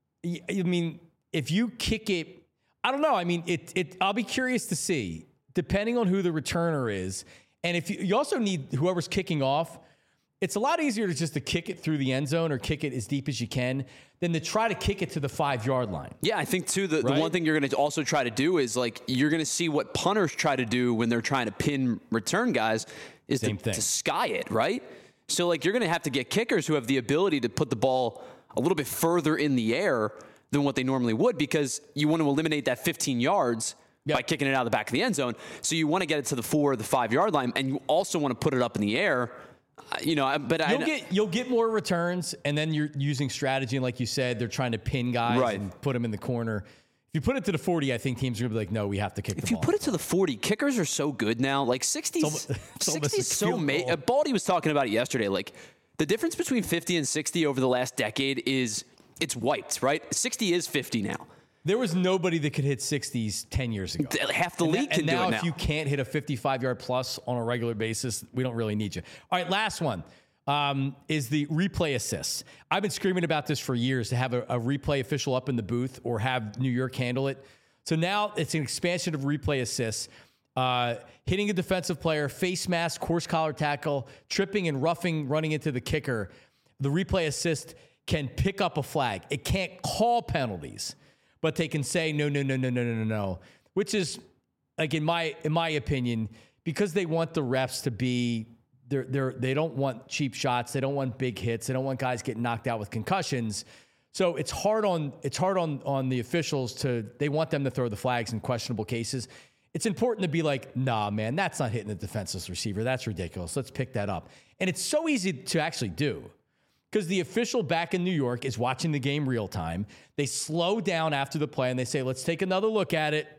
I mean, if you kick it, I don't know. I mean, it. It. I'll be curious to see. Depending on who the returner is. And if you, you also need whoever's kicking off, it's a lot easier to just to kick it through the end zone or kick it as deep as you can than to try to kick it to the five-yard line. Yeah, I think, too, the, right? the one thing you're going to also try to do is, like, you're going to see what punters try to do when they're trying to pin return guys is to, to sky it, right? So, like, you're going to have to get kickers who have the ability to put the ball a little bit further in the air than what they normally would because you want to eliminate that fifteen yards Yep. by kicking it out of the back of the end zone. So you want to get it to the four or the five-yard line, and you also want to put it up in the air. Uh, you know, but you'll I, get you'll get more returns, and then you're using strategy. And like you said, they're trying to pin guys right. and put them in the corner. If you put it to the forty, I think teams are going to be like, no, we have to kick if the you ball. Put it to the forty, kickers are so good now. Like sixty's, sixty's so made. Uh, Baldy was talking about it yesterday. Like the difference between fifty and sixty over the last decade is it's wiped, right? sixty is fifty now. There was nobody that could hit sixties ten years ago. Half the and league that, can and now do it now. If you can't hit a fifty-five-yard plus on a regular basis, we don't really need you. All right, last one um, is the replay assists. I've been screaming about this for years to have a, a replay official up in the booth or have New York handle it. So now it's an expansion of replay assists. Uh, hitting a defensive player, face mask, horse collar tackle, tripping and roughing, running into the kicker. The replay assist can pick up a flag. It can't call penalties. But they can say no, no, no, no, no, no, no, no, which is, like in my in my opinion, because they want the refs to be, they're they're they don't want cheap shots, they don't want big hits, they don't want guys getting knocked out with concussions. So it's hard on it's hard on on the officials to they want them to throw the flags in questionable cases. It's important to be like, nah, man, that's not hitting the defenseless receiver. That's ridiculous. Let's pick that up. And it's so easy to actually do. Because the official back in New York is watching the game real time. They slow down after the play and they say, let's take another look at it.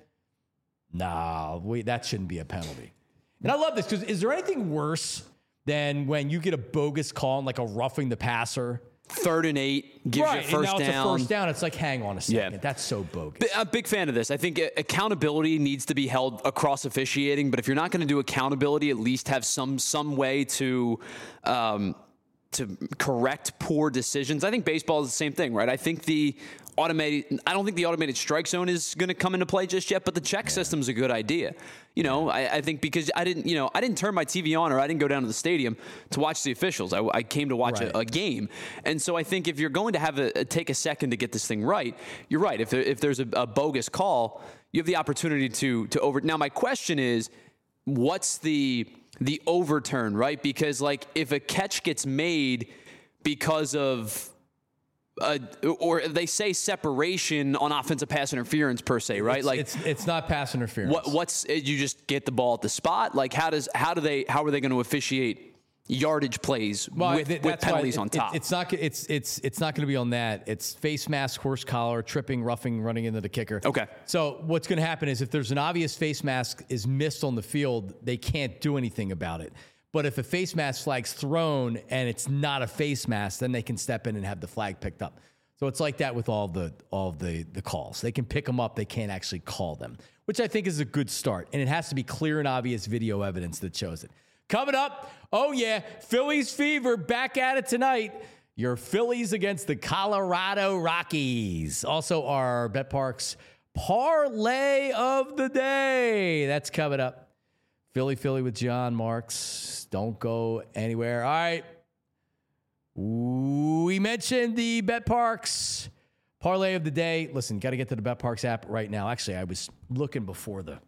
Nah, wait, that shouldn't be a penalty. And I love this because is there anything worse than when you get a bogus call on like a roughing the passer? Third and eight, gives right, you a first and now down. It's a first down. It's like, hang on a second. Yeah. That's so bogus. I'm a big fan of this. I think accountability needs to be held across officiating, but if you're not going to do accountability, at least have some some way to um, to correct poor decisions. I think baseball is the same thing, right? I think the automated, I don't think the automated strike zone is going to come into play just yet, but the check yeah. system is a good idea. You know, I, I think because I didn't, you know, I didn't turn my T V on or I didn't go down to the stadium to watch the officials. I, I came to watch right. a, a game. And so I think if you're going to have a, a take a second to get this thing right, you're right. If there, if there's a, a bogus call, you have the opportunity to, to over. Now, my question is, what's the, the overturn, right? Because like if a catch gets made because of uh, or they say separation on offensive pass interference per se, right? It's, like it's it's not pass interference. What, what's you just get the ball at the spot? Like how does how do they how are they going to officiate yardage plays well, with, th- with penalties it, on top? It, it's not it's it's it's not going to be on that. It's face mask, horse collar, tripping, roughing, running into the kicker. Okay. So what's going to happen is if there's an obvious face mask is missed on the field, they can't do anything about it. But if a face mask flag's thrown and it's not a face mask, then they can step in and have the flag picked up. So it's like that with all the all of the the calls. They can pick them up, they can't actually call them, which I think is a good start. And it has to be clear and obvious video evidence that shows it. Coming up, oh yeah, Phillies fever back at it tonight. Your Phillies against the Colorado Rockies. Also our BetParx parlay of the day. That's coming up. Philly Philly with John Marks. Don't go anywhere. All right. We mentioned the BetParx parlay of the day. Listen, got to get to the BetParx app right now. Actually, I was looking before the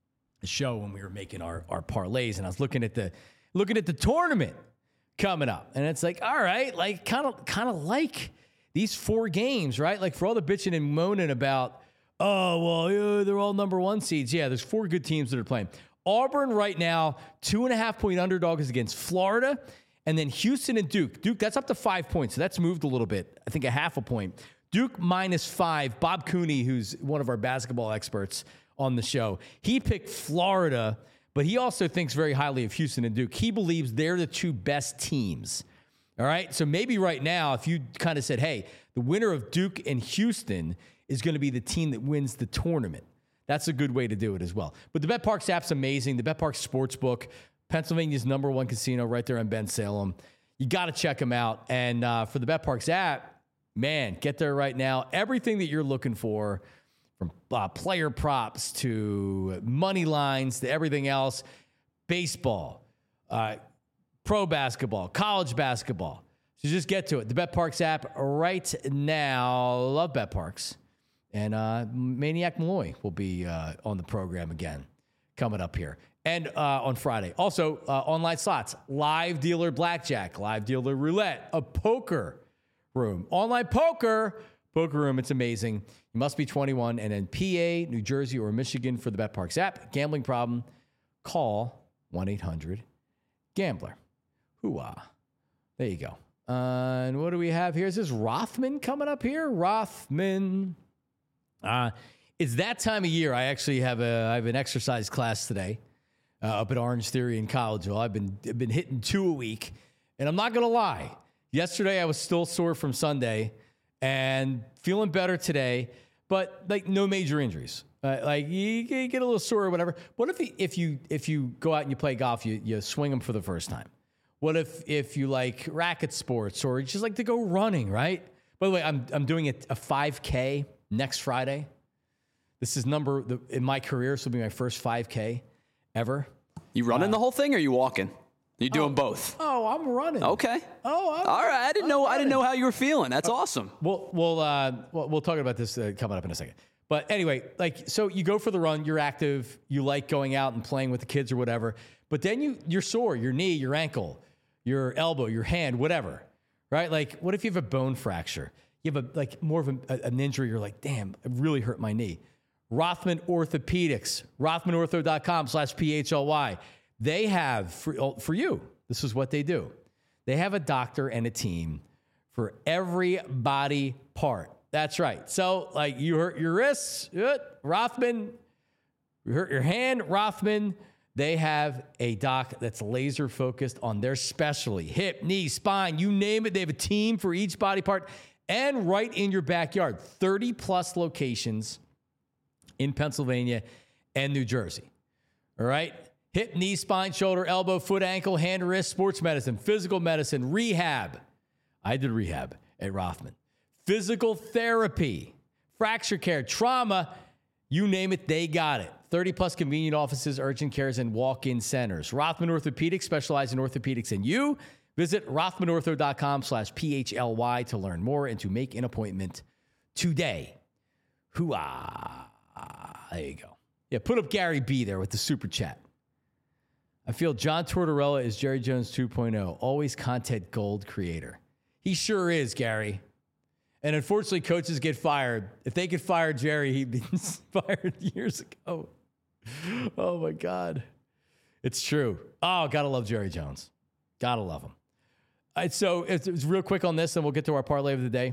show when we were making our, our parlays, and I was looking at the looking at the tournament coming up, and it's like, all right, like kind of kind of like these four games, right? Like for all the bitching and moaning about, oh well, yeah, they're all number one seeds. Yeah, there's four good teams that are playing. Auburn right now, two and a half point underdog is against Florida, and then Houston and Duke. Duke, that's up to five points, so that's moved a little bit. I think a half a point. Duke minus five. Bob Cooney, who's one of our basketball experts on the show, he picked Florida, but he also thinks very highly of Houston and Duke. He believes they're the two best teams. All right, so maybe right now, if you kind of said, hey, the winner of Duke and Houston is going to be the team that wins the tournament, that's a good way to do it as well. But the BetParx app's amazing. The BetParx Sportsbook, Pennsylvania's number one casino right there in Ben Salem. You got to check them out. And uh, for the BetParx app, man, get there right now. Everything that you're looking for, from uh, player props to money lines to everything else, baseball, uh, pro basketball, college basketball. So just get to it. The BetParx app right now. Love BetParx. And uh, Maniac Malloy will be uh, on the program again coming up here. And uh, on Friday. Also, uh, online slots, live dealer blackjack, live dealer roulette, a poker room. Online poker, poker room, it's amazing. You must be twenty-one and in P A, New Jersey, or Michigan for the BetParx app. Gambling problem, call one eight hundred gambler. Hooah. There you go. Uh, and what do we have here? Is this Rothman coming up here? Rothman. Uh, it's that time of year. I actually have a I have an exercise class today uh, up at Orange Theory in Collegeville. I've been I've been hitting two a week, and I'm not gonna lie. Yesterday I was still sore from Sunday, and feeling better today, but like no major injuries. Uh, like you, you get a little sore or whatever. What if if you if you go out and you play golf, you you swing them for the first time? What if if you like racket sports or you just like to go running, right? By the way, I'm I'm doing a, a five K next Friday. This is number the, in my career. This will be my first five K ever. You running uh, the whole thing, or are you walking? You doing oh, both? Oh, I'm running. Okay. Oh, I'm, all right. I didn't I'm know. running. I didn't know how you were feeling. That's uh, awesome. We'll we'll uh, we'll, we'll talk about this uh, coming up in a second. But anyway, like so, you go for the run. You're active. You like going out and playing with the kids or whatever. But then you you're sore. Your knee, your ankle, your elbow, your hand, whatever. Right? Like, what if you have a bone fracture? You have a like more of a, an injury. You're like, damn, it really hurt my knee. Rothman Orthopedics, rothman ortho dot com slash P H L Y. They have, for, for you, this is what they do. They have a doctor and a team for every body part. That's right. So, like, you hurt your wrists, Rothman. You hurt your hand, Rothman. They have a doc that's laser focused on their specialty. Hip, knee, spine, you name it. They have a team for each body part. And right in your backyard, thirty plus locations in Pennsylvania and New Jersey. All right? Hip, knee, spine, shoulder, elbow, foot, ankle, hand, wrist, sports medicine, physical medicine, rehab. I did rehab at Rothman. Physical therapy, fracture care, trauma, you name it, they got it. thirty plus convenient offices, urgent cares, and walk-in centers. Rothman Orthopedics specialize in orthopedics and you. Visit rothman ortho dot com slash P H L Y to learn more and to make an appointment today. Hooah. There you go. Yeah, put up Gary B there with the super chat. I feel John Tortorella is Jerry Jones two point oh. Always content gold creator. He sure is, Gary. And unfortunately, coaches get fired. If they could fire Jerry, he'd be fired years ago. Oh, my God. It's true. Oh, gotta love Jerry Jones. Gotta love him. All right, so it's, it's real quick on this, and we'll get to our parlay of the day.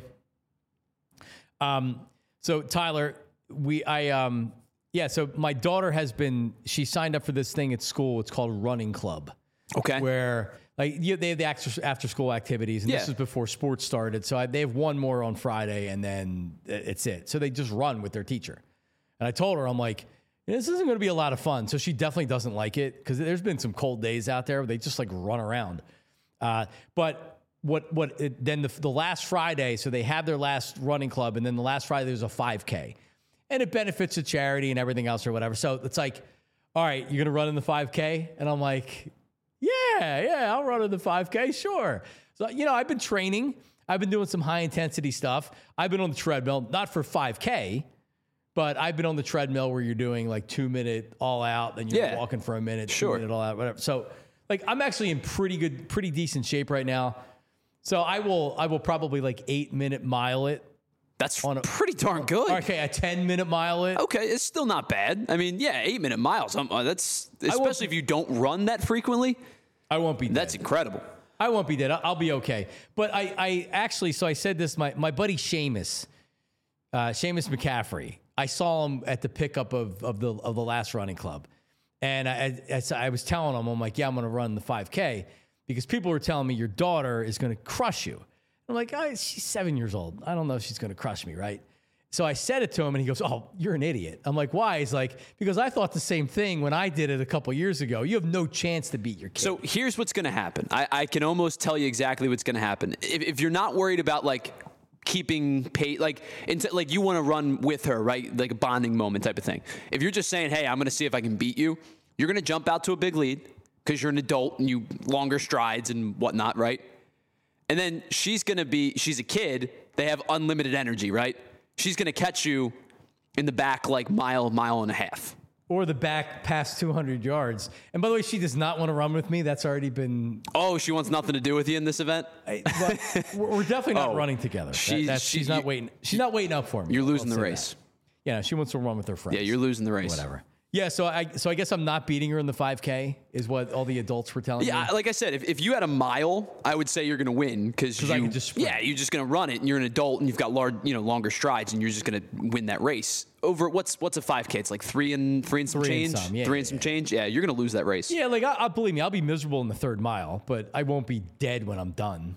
Um, so Tyler, we, I, um, yeah, so my daughter has been, she signed up for this thing at school. It's called Running Club. Okay. Where, like, you, they have the after, after school activities, and yeah. this is before sports started. So I, they have one more on Friday, and then it's it. So they just run with their teacher. And I told her, I'm like, this isn't going to be a lot of fun. So she definitely doesn't like it because there's been some cold days out there where they just like run around. Uh, but what what it, then the, the last Friday, so they have their last running club, and then the last Friday there's a five K, and it benefits the charity and everything else or whatever. So it's like, all right, you're going to run in the five K? And I'm like, yeah, yeah, I'll run in the five K, sure. So, you know, I've been training. I've been doing some high intensity stuff. I've been on the treadmill, not for five K, but I've been on the treadmill where you're doing like two minute all out, then you're yeah. walking for a minute, sure. two minute all out, whatever. So like I'm actually in pretty good, pretty decent shape right now. So I will, I will probably like eight minute mile it. That's on a, pretty darn good. Okay, a ten minute mile it. Okay, it's still not bad. I mean, yeah, eight minute miles. Um, uh, that's especially if you don't run that frequently. I won't be dead. That's incredible. I won't be dead. I'll, I'll be okay. But I, I actually, so I said this. My my buddy Seamus, uh, Seamus McCaffrey. I saw him at the pickup of of the of the last running club, and I I, I was telling him, I'm like, yeah, I'm going to run the five K because people were telling me your daughter is going to crush you. I'm like, oh, she's seven years old. I don't know if she's going to crush me, right? So I said it to him, and he goes, oh, you're an idiot. I'm like, why? He's like, because I thought the same thing when I did it a couple years ago. You have no chance to beat your kid. So here's what's going to happen. I, I can almost tell you exactly what's going to happen. If, if you're not worried about, like, keeping pace, like, into, like you want to run with her, right? Like a bonding moment type of thing. If you're just saying, hey, I'm going to see if I can beat you, you're going to jump out to a big lead because you're an adult and you longer strides and whatnot, right? And then she's going to be, she's a kid. They have unlimited energy, right? She's going to catch you in the back like mile, mile and a half. Or the back past two hundred yards. And by the way, she does not want to run with me. That's already been... Oh, she wants nothing to do with you in this event? I, we're definitely not oh, running together. She, that, she's, she's not waiting. She's not waiting up for me. You're losing the race. That. Yeah, she wants to run with her friends. Yeah, you're losing the race. Whatever. Yeah, so I so I guess I'm not beating her in the five K is what all the adults were telling yeah, me. Yeah, like I said, if, if you had a mile, I would say you're going to win because you I can just sprint. Yeah, you're just going to run it, and you're an adult, and you've got large, you know, longer strides, and you're just going to win that race. Over what's what's a five K? It's like three and three and some three change. And some. Yeah, three yeah, and some yeah. change. Yeah, you're going to lose that race. Yeah, like I, I believe me, I'll be miserable in the third mile, but I won't be dead when I'm done.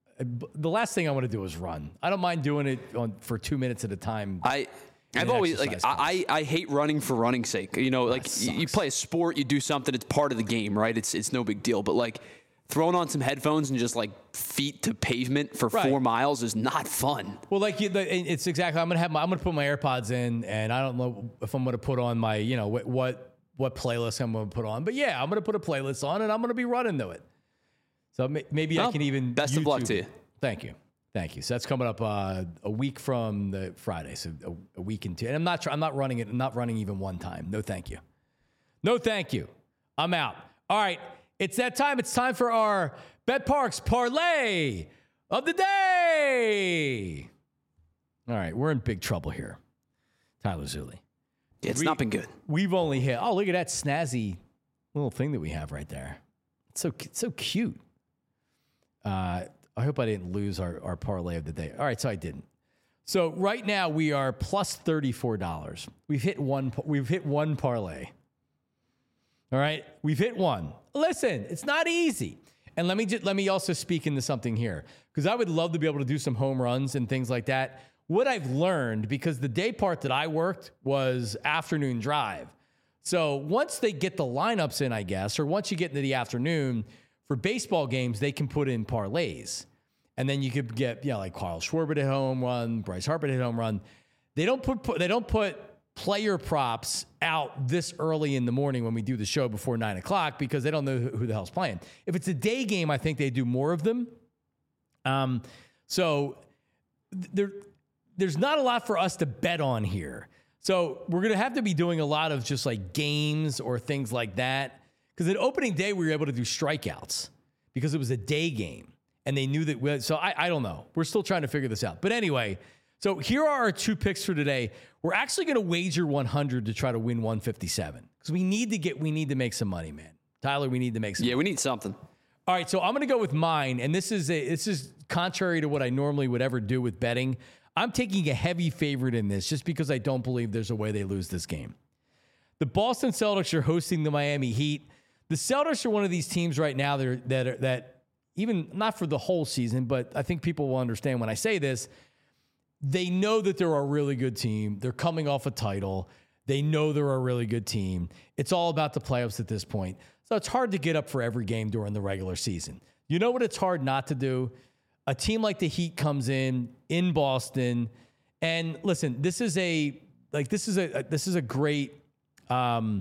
The last thing I want to do is run. I don't mind doing it on, for two minutes at a time. I. I've always like I, I hate running for running's sake. You know, like you, you play a sport, you do something, it's part of the game, right? It's it's no big deal. But like throwing on some headphones and just like feet to pavement for right. four miles is not fun. Well, like you, it's exactly. I'm gonna have my I'm gonna put my AirPods in, and I don't know if I'm gonna put on my you know what what, what playlist I'm gonna put on, but yeah, I'm gonna put a playlist on, and I'm gonna be running to it. So maybe well, I can even best YouTube. of luck to you. Thank you. Thank you. So that's coming up uh, a week from the Friday. So a, a week and two. And I'm not. I'm not running it. I'm not running even one time. No, thank you. No, thank you. I'm out. All right. It's that time. It's time for our BetParx parlay of the day. All right. We're in big trouble here. Tyler Zulli. Yeah, it's we, not been good. We've only hit. Oh, look at that snazzy little thing that we have right there. It's so it's so cute. Uh. I hope I didn't lose our, our parlay of the day. All right, so I didn't. So right now we are plus thirty-four dollars. We've hit one. We've hit one parlay. All right, we've hit one. Listen, it's not easy. And let me just let me also speak into something here because I would love to be able to do some home runs and things like that. What I've learned because the day part that I worked was afternoon drive. So once they get the lineups in, I guess, or once you get into the afternoon. For baseball games, they can put in parlays. And then you could get, you know, like Carl Schwarber hit home run, Bryce Harper hit home run. They don't put they don't put player props out this early in the morning when we do the show before nine o'clock because they don't know who the hell's playing. If it's a day game, I think they do more of them. Um, so there, there's not a lot for us to bet on here. So we're going to have to be doing a lot of just like games or things like that. Because at opening day, we were able to do strikeouts because it was a day game. and they knew that. We, so I, I don't know. We're still trying to figure this out. But anyway, so here are our two picks for today. We're actually going to wager one hundred to try to win one fifty-seven because we need to get we need to make some money, man. Tyler, we need to make some. Yeah, money. we need something. All right, so I'm going to go with mine, and this is a this is contrary to what I normally would ever do with betting. I'm taking a heavy favorite in this just because I don't believe there's a way they lose this game. The Boston Celtics are hosting the Miami Heat. The Celtics are one of these teams right now that are, that are, that even not for the whole season, but I think people will understand when I say this. They know that they're a really good team. They're coming off a title. They know they're a really good team. It's all about the playoffs at this point. So it's hard to get up for every game during the regular season. You know what it's hard not to do? A team like the Heat comes in in Boston, and listen, this is a like this is a this is a great um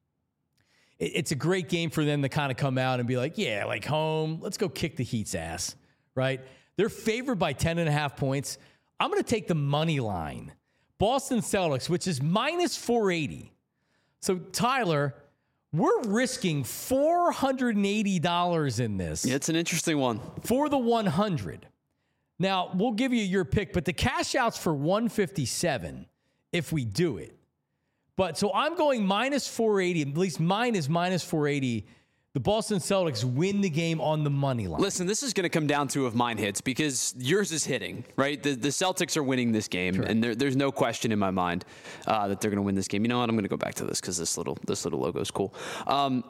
it, it's a great game for them to kind of come out and be like, yeah, like home, let's go kick the Heat's ass, right? They're favored by ten and a half points. I'm going to take the money line. Boston Celtics, which is minus four eighty. So Tyler, we're risking four hundred eighty dollars in this. Yeah, it's an interesting one. For the one hundred. Now, we'll give you your pick, but the cash out's for one fifty-seven if we do it. But so I'm going minus four eighty, at least mine is minus four eighty. The Boston Celtics win the game on the money line. Listen, this is going to come down to if mine hits because yours is hitting, right? The, the Celtics are winning this game, sure. and there, there's no question in my mind uh, that they're going to win this game. You know what? I'm going to go back to this because this little this little logo is cool. Um,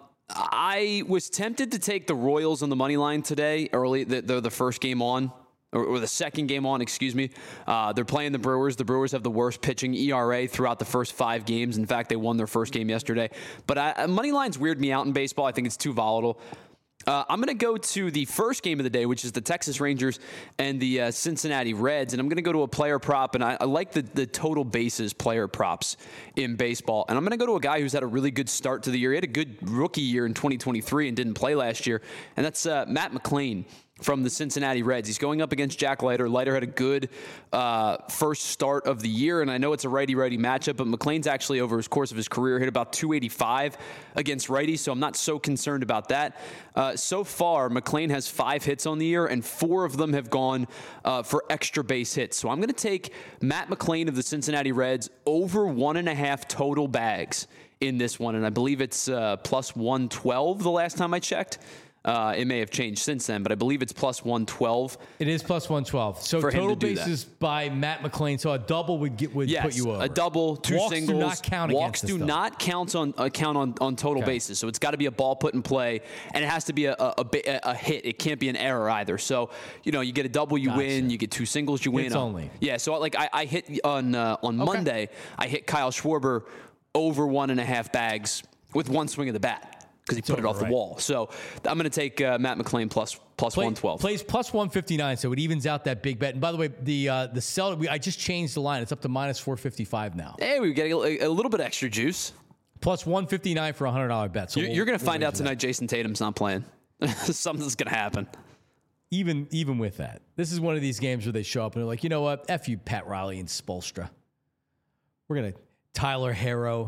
I was tempted to take the Royals on the money line today, early. They're the first game on. Or the second game on, excuse me. Uh, they're playing the Brewers. The Brewers have the worst pitching E R A throughout the first five games. In fact, they won their first game yesterday. But I, money lines weird me out in baseball. I think it's too volatile. Uh, I'm going to go to the first game of the day, which is the Texas Rangers and the uh, Cincinnati Reds. And I'm going to go to a player prop. And I, I like the, the total bases player props in baseball. And I'm going to go to a guy who's had a really good start to the year. He had a good rookie year in twenty twenty-three and didn't play last year. And that's uh, Matt McLain from the Cincinnati Reds. He's going up against Jack Leiter. Leiter had a good uh, first start of the year, and I know it's a righty-righty matchup, but McLain's actually, over his course of his career, hit about two eighty-five against righties, so I'm not so concerned about that. Uh, so far, McLain has five hits on the year, and four of them have gone uh, for extra base hits. So I'm going to take Matt McLain of the Cincinnati Reds over one and a half total bags in this one, and I believe it's uh, plus one twelve the last time I checked. Uh, it may have changed since then, but I believe it's plus one twelve. It is plus one twelve. So total bases by Matt McLain. So a double would get would yes, put you over. A double, two Walks singles. do not count Walks against do not count on uh, count on, on total okay. bases. So it's got to be a ball put in play, and it has to be a a, a a hit. It can't be an error either. So you know, you get a double, you gotcha. win. You get two singles, you win. It's only yeah. So like I, I hit on uh, on okay. Monday, I hit Kyle Schwarber over one and a half bags with one swing of the bat. Because he put it off right. the wall. So I'm going to take uh, Matt McLain plus plus Play, one twelve. Plays plus one fifty-nine, so it evens out that big bet. And by the way, the uh, the Celtics, we, I just changed the line. It's up to minus four fifty-five now. Hey, we get a, a little bit extra juice. Plus one fifty-nine for a one hundred dollars bet. So you're we'll, you're going to we'll find out tonight that. Jason Tatum's not playing. Something's going to happen. Even even with that, this is one of these games where they show up and they're like, you know what? F you, Pat Riley and Spoelstra. We're going to Tyler Harrow.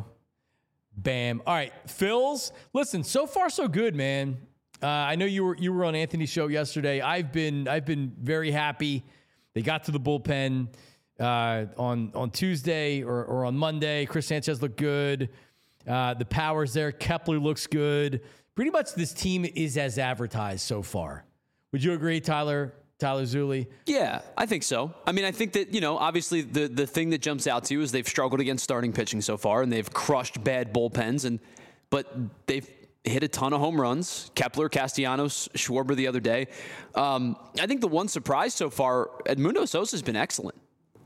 Bam. All right, Phils. Listen, so far so good, man. Uh, I know you were you were on Anthony's show yesterday. I've been I've been very happy. They got to the bullpen uh, on on Tuesday or, or on Monday. Chris Sanchez looked good. Uh, the power's there. Kepler looks good. Pretty much this team is as advertised so far. Would you agree, Tyler? Tyler Zulli? Yeah, I think so. I mean, I think that, you know, obviously the, the thing that jumps out to you is they've struggled against starting pitching so far, and they've crushed bad bullpens, and but they've hit a ton of home runs. Kepler, Castellanos, Schwarber the other day. Um, I think the one surprise so far, Edmundo Sosa's been excellent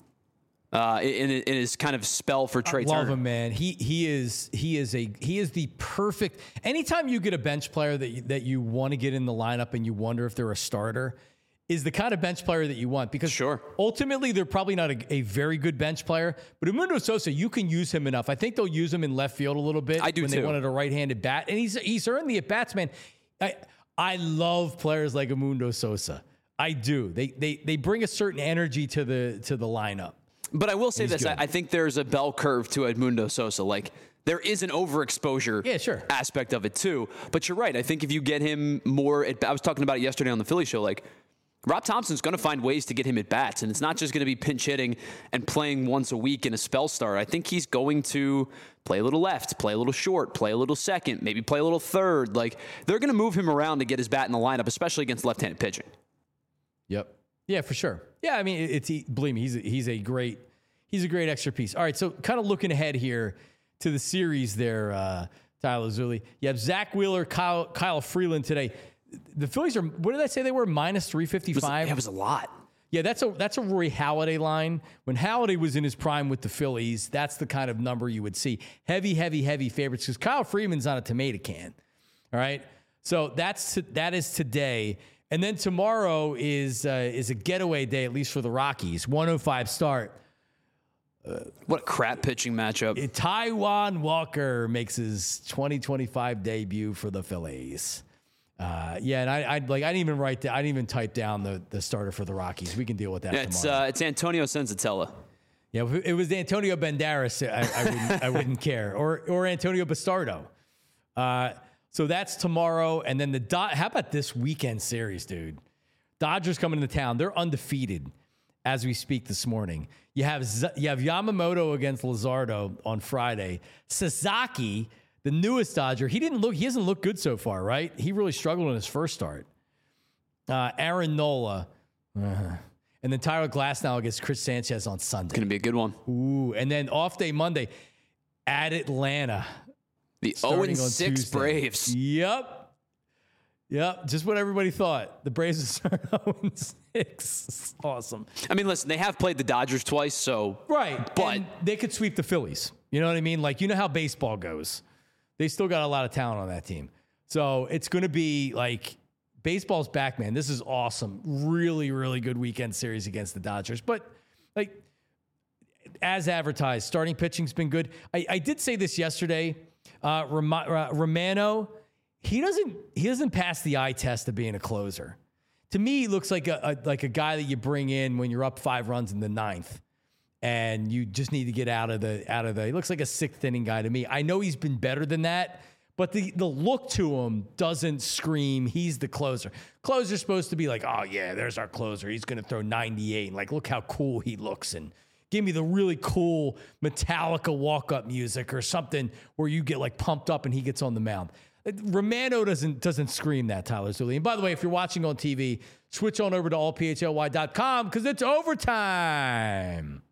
uh, in, in his kind of spell for Trey Turner. I love him, man. He he is he is a he is the perfect. Anytime you get a bench player that you, that you want to get in the lineup and you wonder if they're a starter, is the kind of bench player that you want, because sure. ultimately they're probably not a, a very good bench player, but Edmundo Sosa, you can use him enough. I think they'll use him in left field a little bit I do when too. they wanted a right-handed bat, and he's he's earned the at-bats, man. I I love players like Edmundo Sosa. I do. They they they bring a certain energy to the to the lineup. But I will say this: I, I think there's a bell curve to Edmundo Sosa. Like, there is an overexposure yeah, sure. aspect of it too. But you're right. I think if you get him more, at, I was talking about it yesterday on the Philly show. Like, Rob Thompson's going to find ways to get him at bats, and it's not just going to be pinch hitting and playing once a week in a spell start. I think he's going to play a little left, play a little short, play a little second, maybe play a little third. Like, they're going to move him around to get his bat in the lineup, especially against left-handed pitching. Yep. Yeah, for sure. Yeah, I mean, it's he, believe me, he's a, he's a great he's a great extra piece. All right, so kind of looking ahead here to the series there, uh, Tyler Zulli. You have Zach Wheeler, Kyle, Kyle Freeland today. The Phillies are, what did I say they were? minus three fifty-five? That was a lot. Yeah, that's a that's a Rory Halladay line. When Halladay was in his prime with the Phillies, that's the kind of number you would see. Heavy, heavy, heavy favorites because Kyle Freeman's on a tomato can. All right? So that's that is today. And then tomorrow is uh, is a getaway day, at least for the Rockies. one oh five start. Uh, what a crap pitching matchup. Taijuan Walker makes his twenty twenty-five debut for the Phillies. Uh, yeah, and I, I like I didn't even write that. I didn't even type down the, the starter for the Rockies. We can deal with that yeah, it's, tomorrow. Uh, it's Antonio Senzatella. Yeah, if it was Antonio Banderas, I, I wouldn't I wouldn't care, or or Antonio Bastardo. Uh, so that's tomorrow, and then the Do- how about this weekend series, dude? Dodgers coming into town. They're undefeated as we speak this morning. You have Z- you have Yamamoto against Luzardo on Friday. Sasaki, the newest Dodger, he didn't look. He hasn't looked good so far, right? He really struggled in his first start. Uh, Aaron Nola, uh, and then Tyler Glasnow against Chris Sanchez on Sunday. Going to be a good one. Ooh, and then off day Monday at Atlanta. The oh and six Braves. Yep. Yep. Just what everybody thought. The Braves are oh and six. Awesome. I mean, listen, they have played the Dodgers twice, so. Right. But and they could sweep the Phillies. You know what I mean? Like, you know how baseball goes. They still got a lot of talent on that team. So it's going to be like, baseball's back, man. This is awesome. Really, really good weekend series against the Dodgers. But, like, as advertised, starting pitching's been good. I, I did say this yesterday. Uh, Rom- uh, Romano, he doesn't he doesn't pass the eye test of being a closer. To me, he looks like a, a like a guy that you bring in when you're up five runs in the ninth, and you just need to get out of the out of the. He looks like a sixth inning guy to me. I know he's been better than that, but the the look to him doesn't scream he's the closer. Closer's supposed to be like, oh yeah, there's our closer. He's going to throw ninety-eight. And like, look how cool he looks, and give me the really cool Metallica walk-up music or something where you get like pumped up and he gets on the mound. Romano doesn't doesn't scream that, Tyler Zulli. And by the way, if you're watching on T V, switch on over to all p h l y dot com because it's overtime.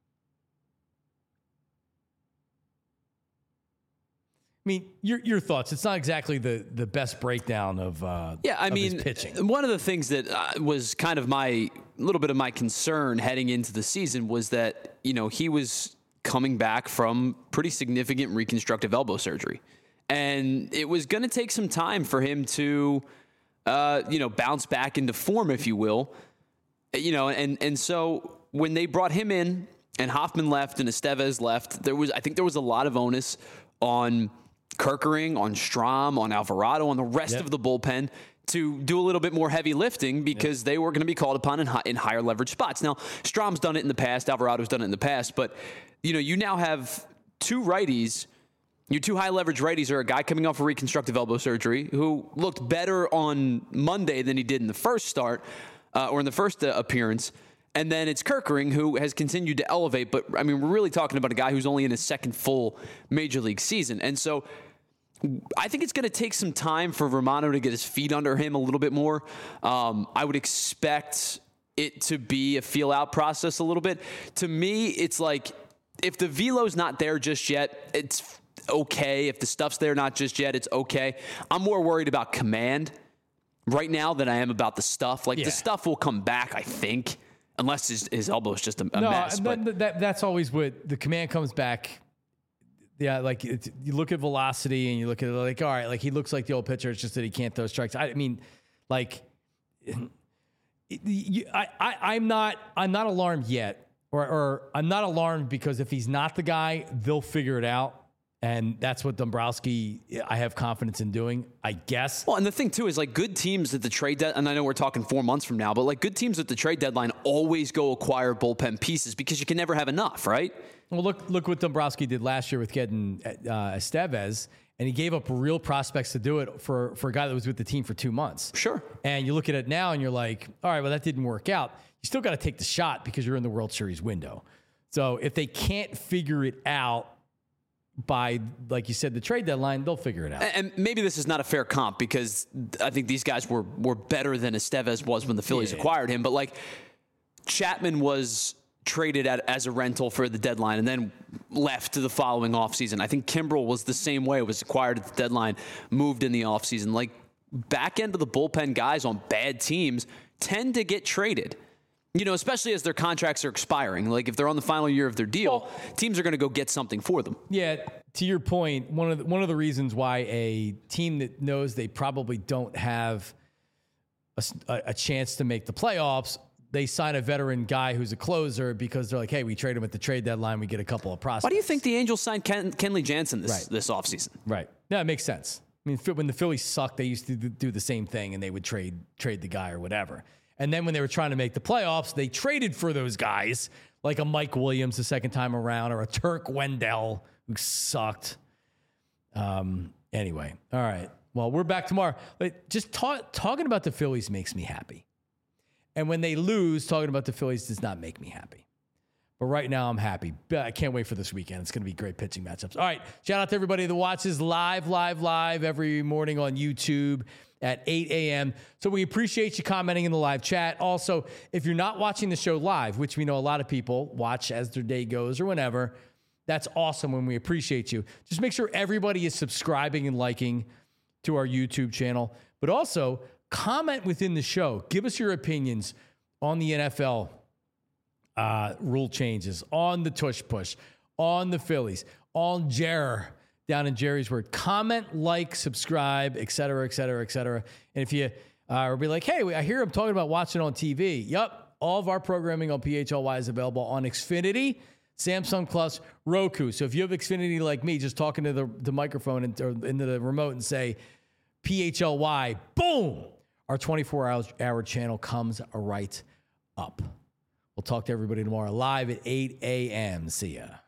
I mean, your your thoughts. It's not exactly the the best breakdown of uh, yeah. I of mean, his pitching. One of the things that uh, was kind of my little bit of my concern heading into the season was that you know he was coming back from pretty significant reconstructive elbow surgery, and it was going to take some time for him to uh, you know bounce back into form, if you will. You know, and and so when they brought him in and Hoffman left and Estevez left, there was I think there was a lot of onus on Kerkering, on Strahm, on Alvarado, on the rest yep. of the bullpen to do a little bit more heavy lifting because yep. they were going to be called upon in, high, in higher leverage spots. Now, Strahm's done it in the past. Alvarado's done it in the past. But, you know, you now have two righties. Your two high leverage righties are a guy coming off a reconstructive elbow surgery who looked better on Monday than he did in the first start uh, or in the first uh, appearance. And then it's Kerkering, who has continued to elevate. But, I mean, we're really talking about a guy who's only in his second full major league season. And so I think it's going to take some time for Romano to get his feet under him a little bit more. Um, I would expect it to be a feel-out process a little bit. To me, it's like if the velo's not there just yet, it's okay. If the stuff's there not just yet, it's okay. I'm more worried about command right now than I am about the stuff. Like, yeah. the stuff will come back, I think. Unless his, his elbow is just a, a no, mess. But that, that, that's always what the command comes back. Yeah, like it's, you look at velocity and you look at it like, all right, like he looks like the old pitcher. It's just that he can't throw strikes. I mean, like, it, you, I, I, I'm not, I'm not alarmed yet, or, or I'm not alarmed because if he's not the guy, they'll figure it out. And that's what Dombrowski, I have confidence in doing, I guess. Well, and the thing, too, is like good teams at the trade deadline, and I know we're talking four months from now, but like good teams at the trade deadline always go acquire bullpen pieces because you can never have enough, right? Well, look look what Dombrowski did last year with getting uh, Estevez, And he gave up real prospects to do it for, for a guy that was with the team for two months. Sure. And you look at it now and you're like, all right, well, that didn't work out. You still got to take the shot because you're in the World Series window. So if they can't figure it out by, like you said, the trade deadline, they'll figure it out. And maybe this is not a fair comp because I think these guys were were better than Estevez was when the Phillies yeah. acquired him. But like Chapman was traded at, as a rental for the deadline and then left to the following offseason. I think Kimbrel was the same way. It was acquired at the deadline, moved in the offseason. Like back end of the bullpen guys on bad teams tend to get traded. You know, especially as their contracts are expiring. Like if they're on the final year of their deal, well, teams are going to go get something for them. Yeah, to your point, one of the, one of the reasons why a team that knows they probably don't have a, a chance to make the playoffs, they sign a veteran guy who's a closer because they're like, hey, we trade him at the trade deadline, we get a couple of prospects. Why do you think the Angels signed Ken, Kenley Jansen this, right. this offseason? Right. Yeah, it makes sense. I mean, when the Phillies sucked, they used to do the same thing and they would trade trade the guy or whatever. And then when they were trying to make the playoffs, they traded for those guys, like a Mike Williams the second time around or a Turk Wendell who sucked. Um. Anyway, all right. Well, we're back tomorrow. But just talk, talking about the Phillies makes me happy. And when they lose, talking about the Phillies does not make me happy. But right now, I'm happy. I can't wait for this weekend. It's going to be great pitching matchups. All right. Shout out to everybody that watches live, live, live every morning on YouTube at eight a.m. So we appreciate you commenting in the live chat. Also, if you're not watching the show live, which we know a lot of people watch as their day goes or whenever, that's awesome when we appreciate you. Just make sure everybody is subscribing and liking to our YouTube channel. But also, comment within the show. Give us your opinions on the N F L uh, rule changes, on the tush push, on the Phillies, on Jer down in Jerry's Word. Comment, like, subscribe, et cetera, et cetera, et cetera. And if you uh, be like, hey, I hear I'm talking about watching on T V. Yup, all of our programming on P H L Y is available on Xfinity, Samsung Plus, Roku. So if you have Xfinity like me, just talking to the, the microphone and, or into the remote and say P H L Y, boom, our twenty-four hour channel comes right up. We'll talk to everybody tomorrow live at eight a.m. See ya.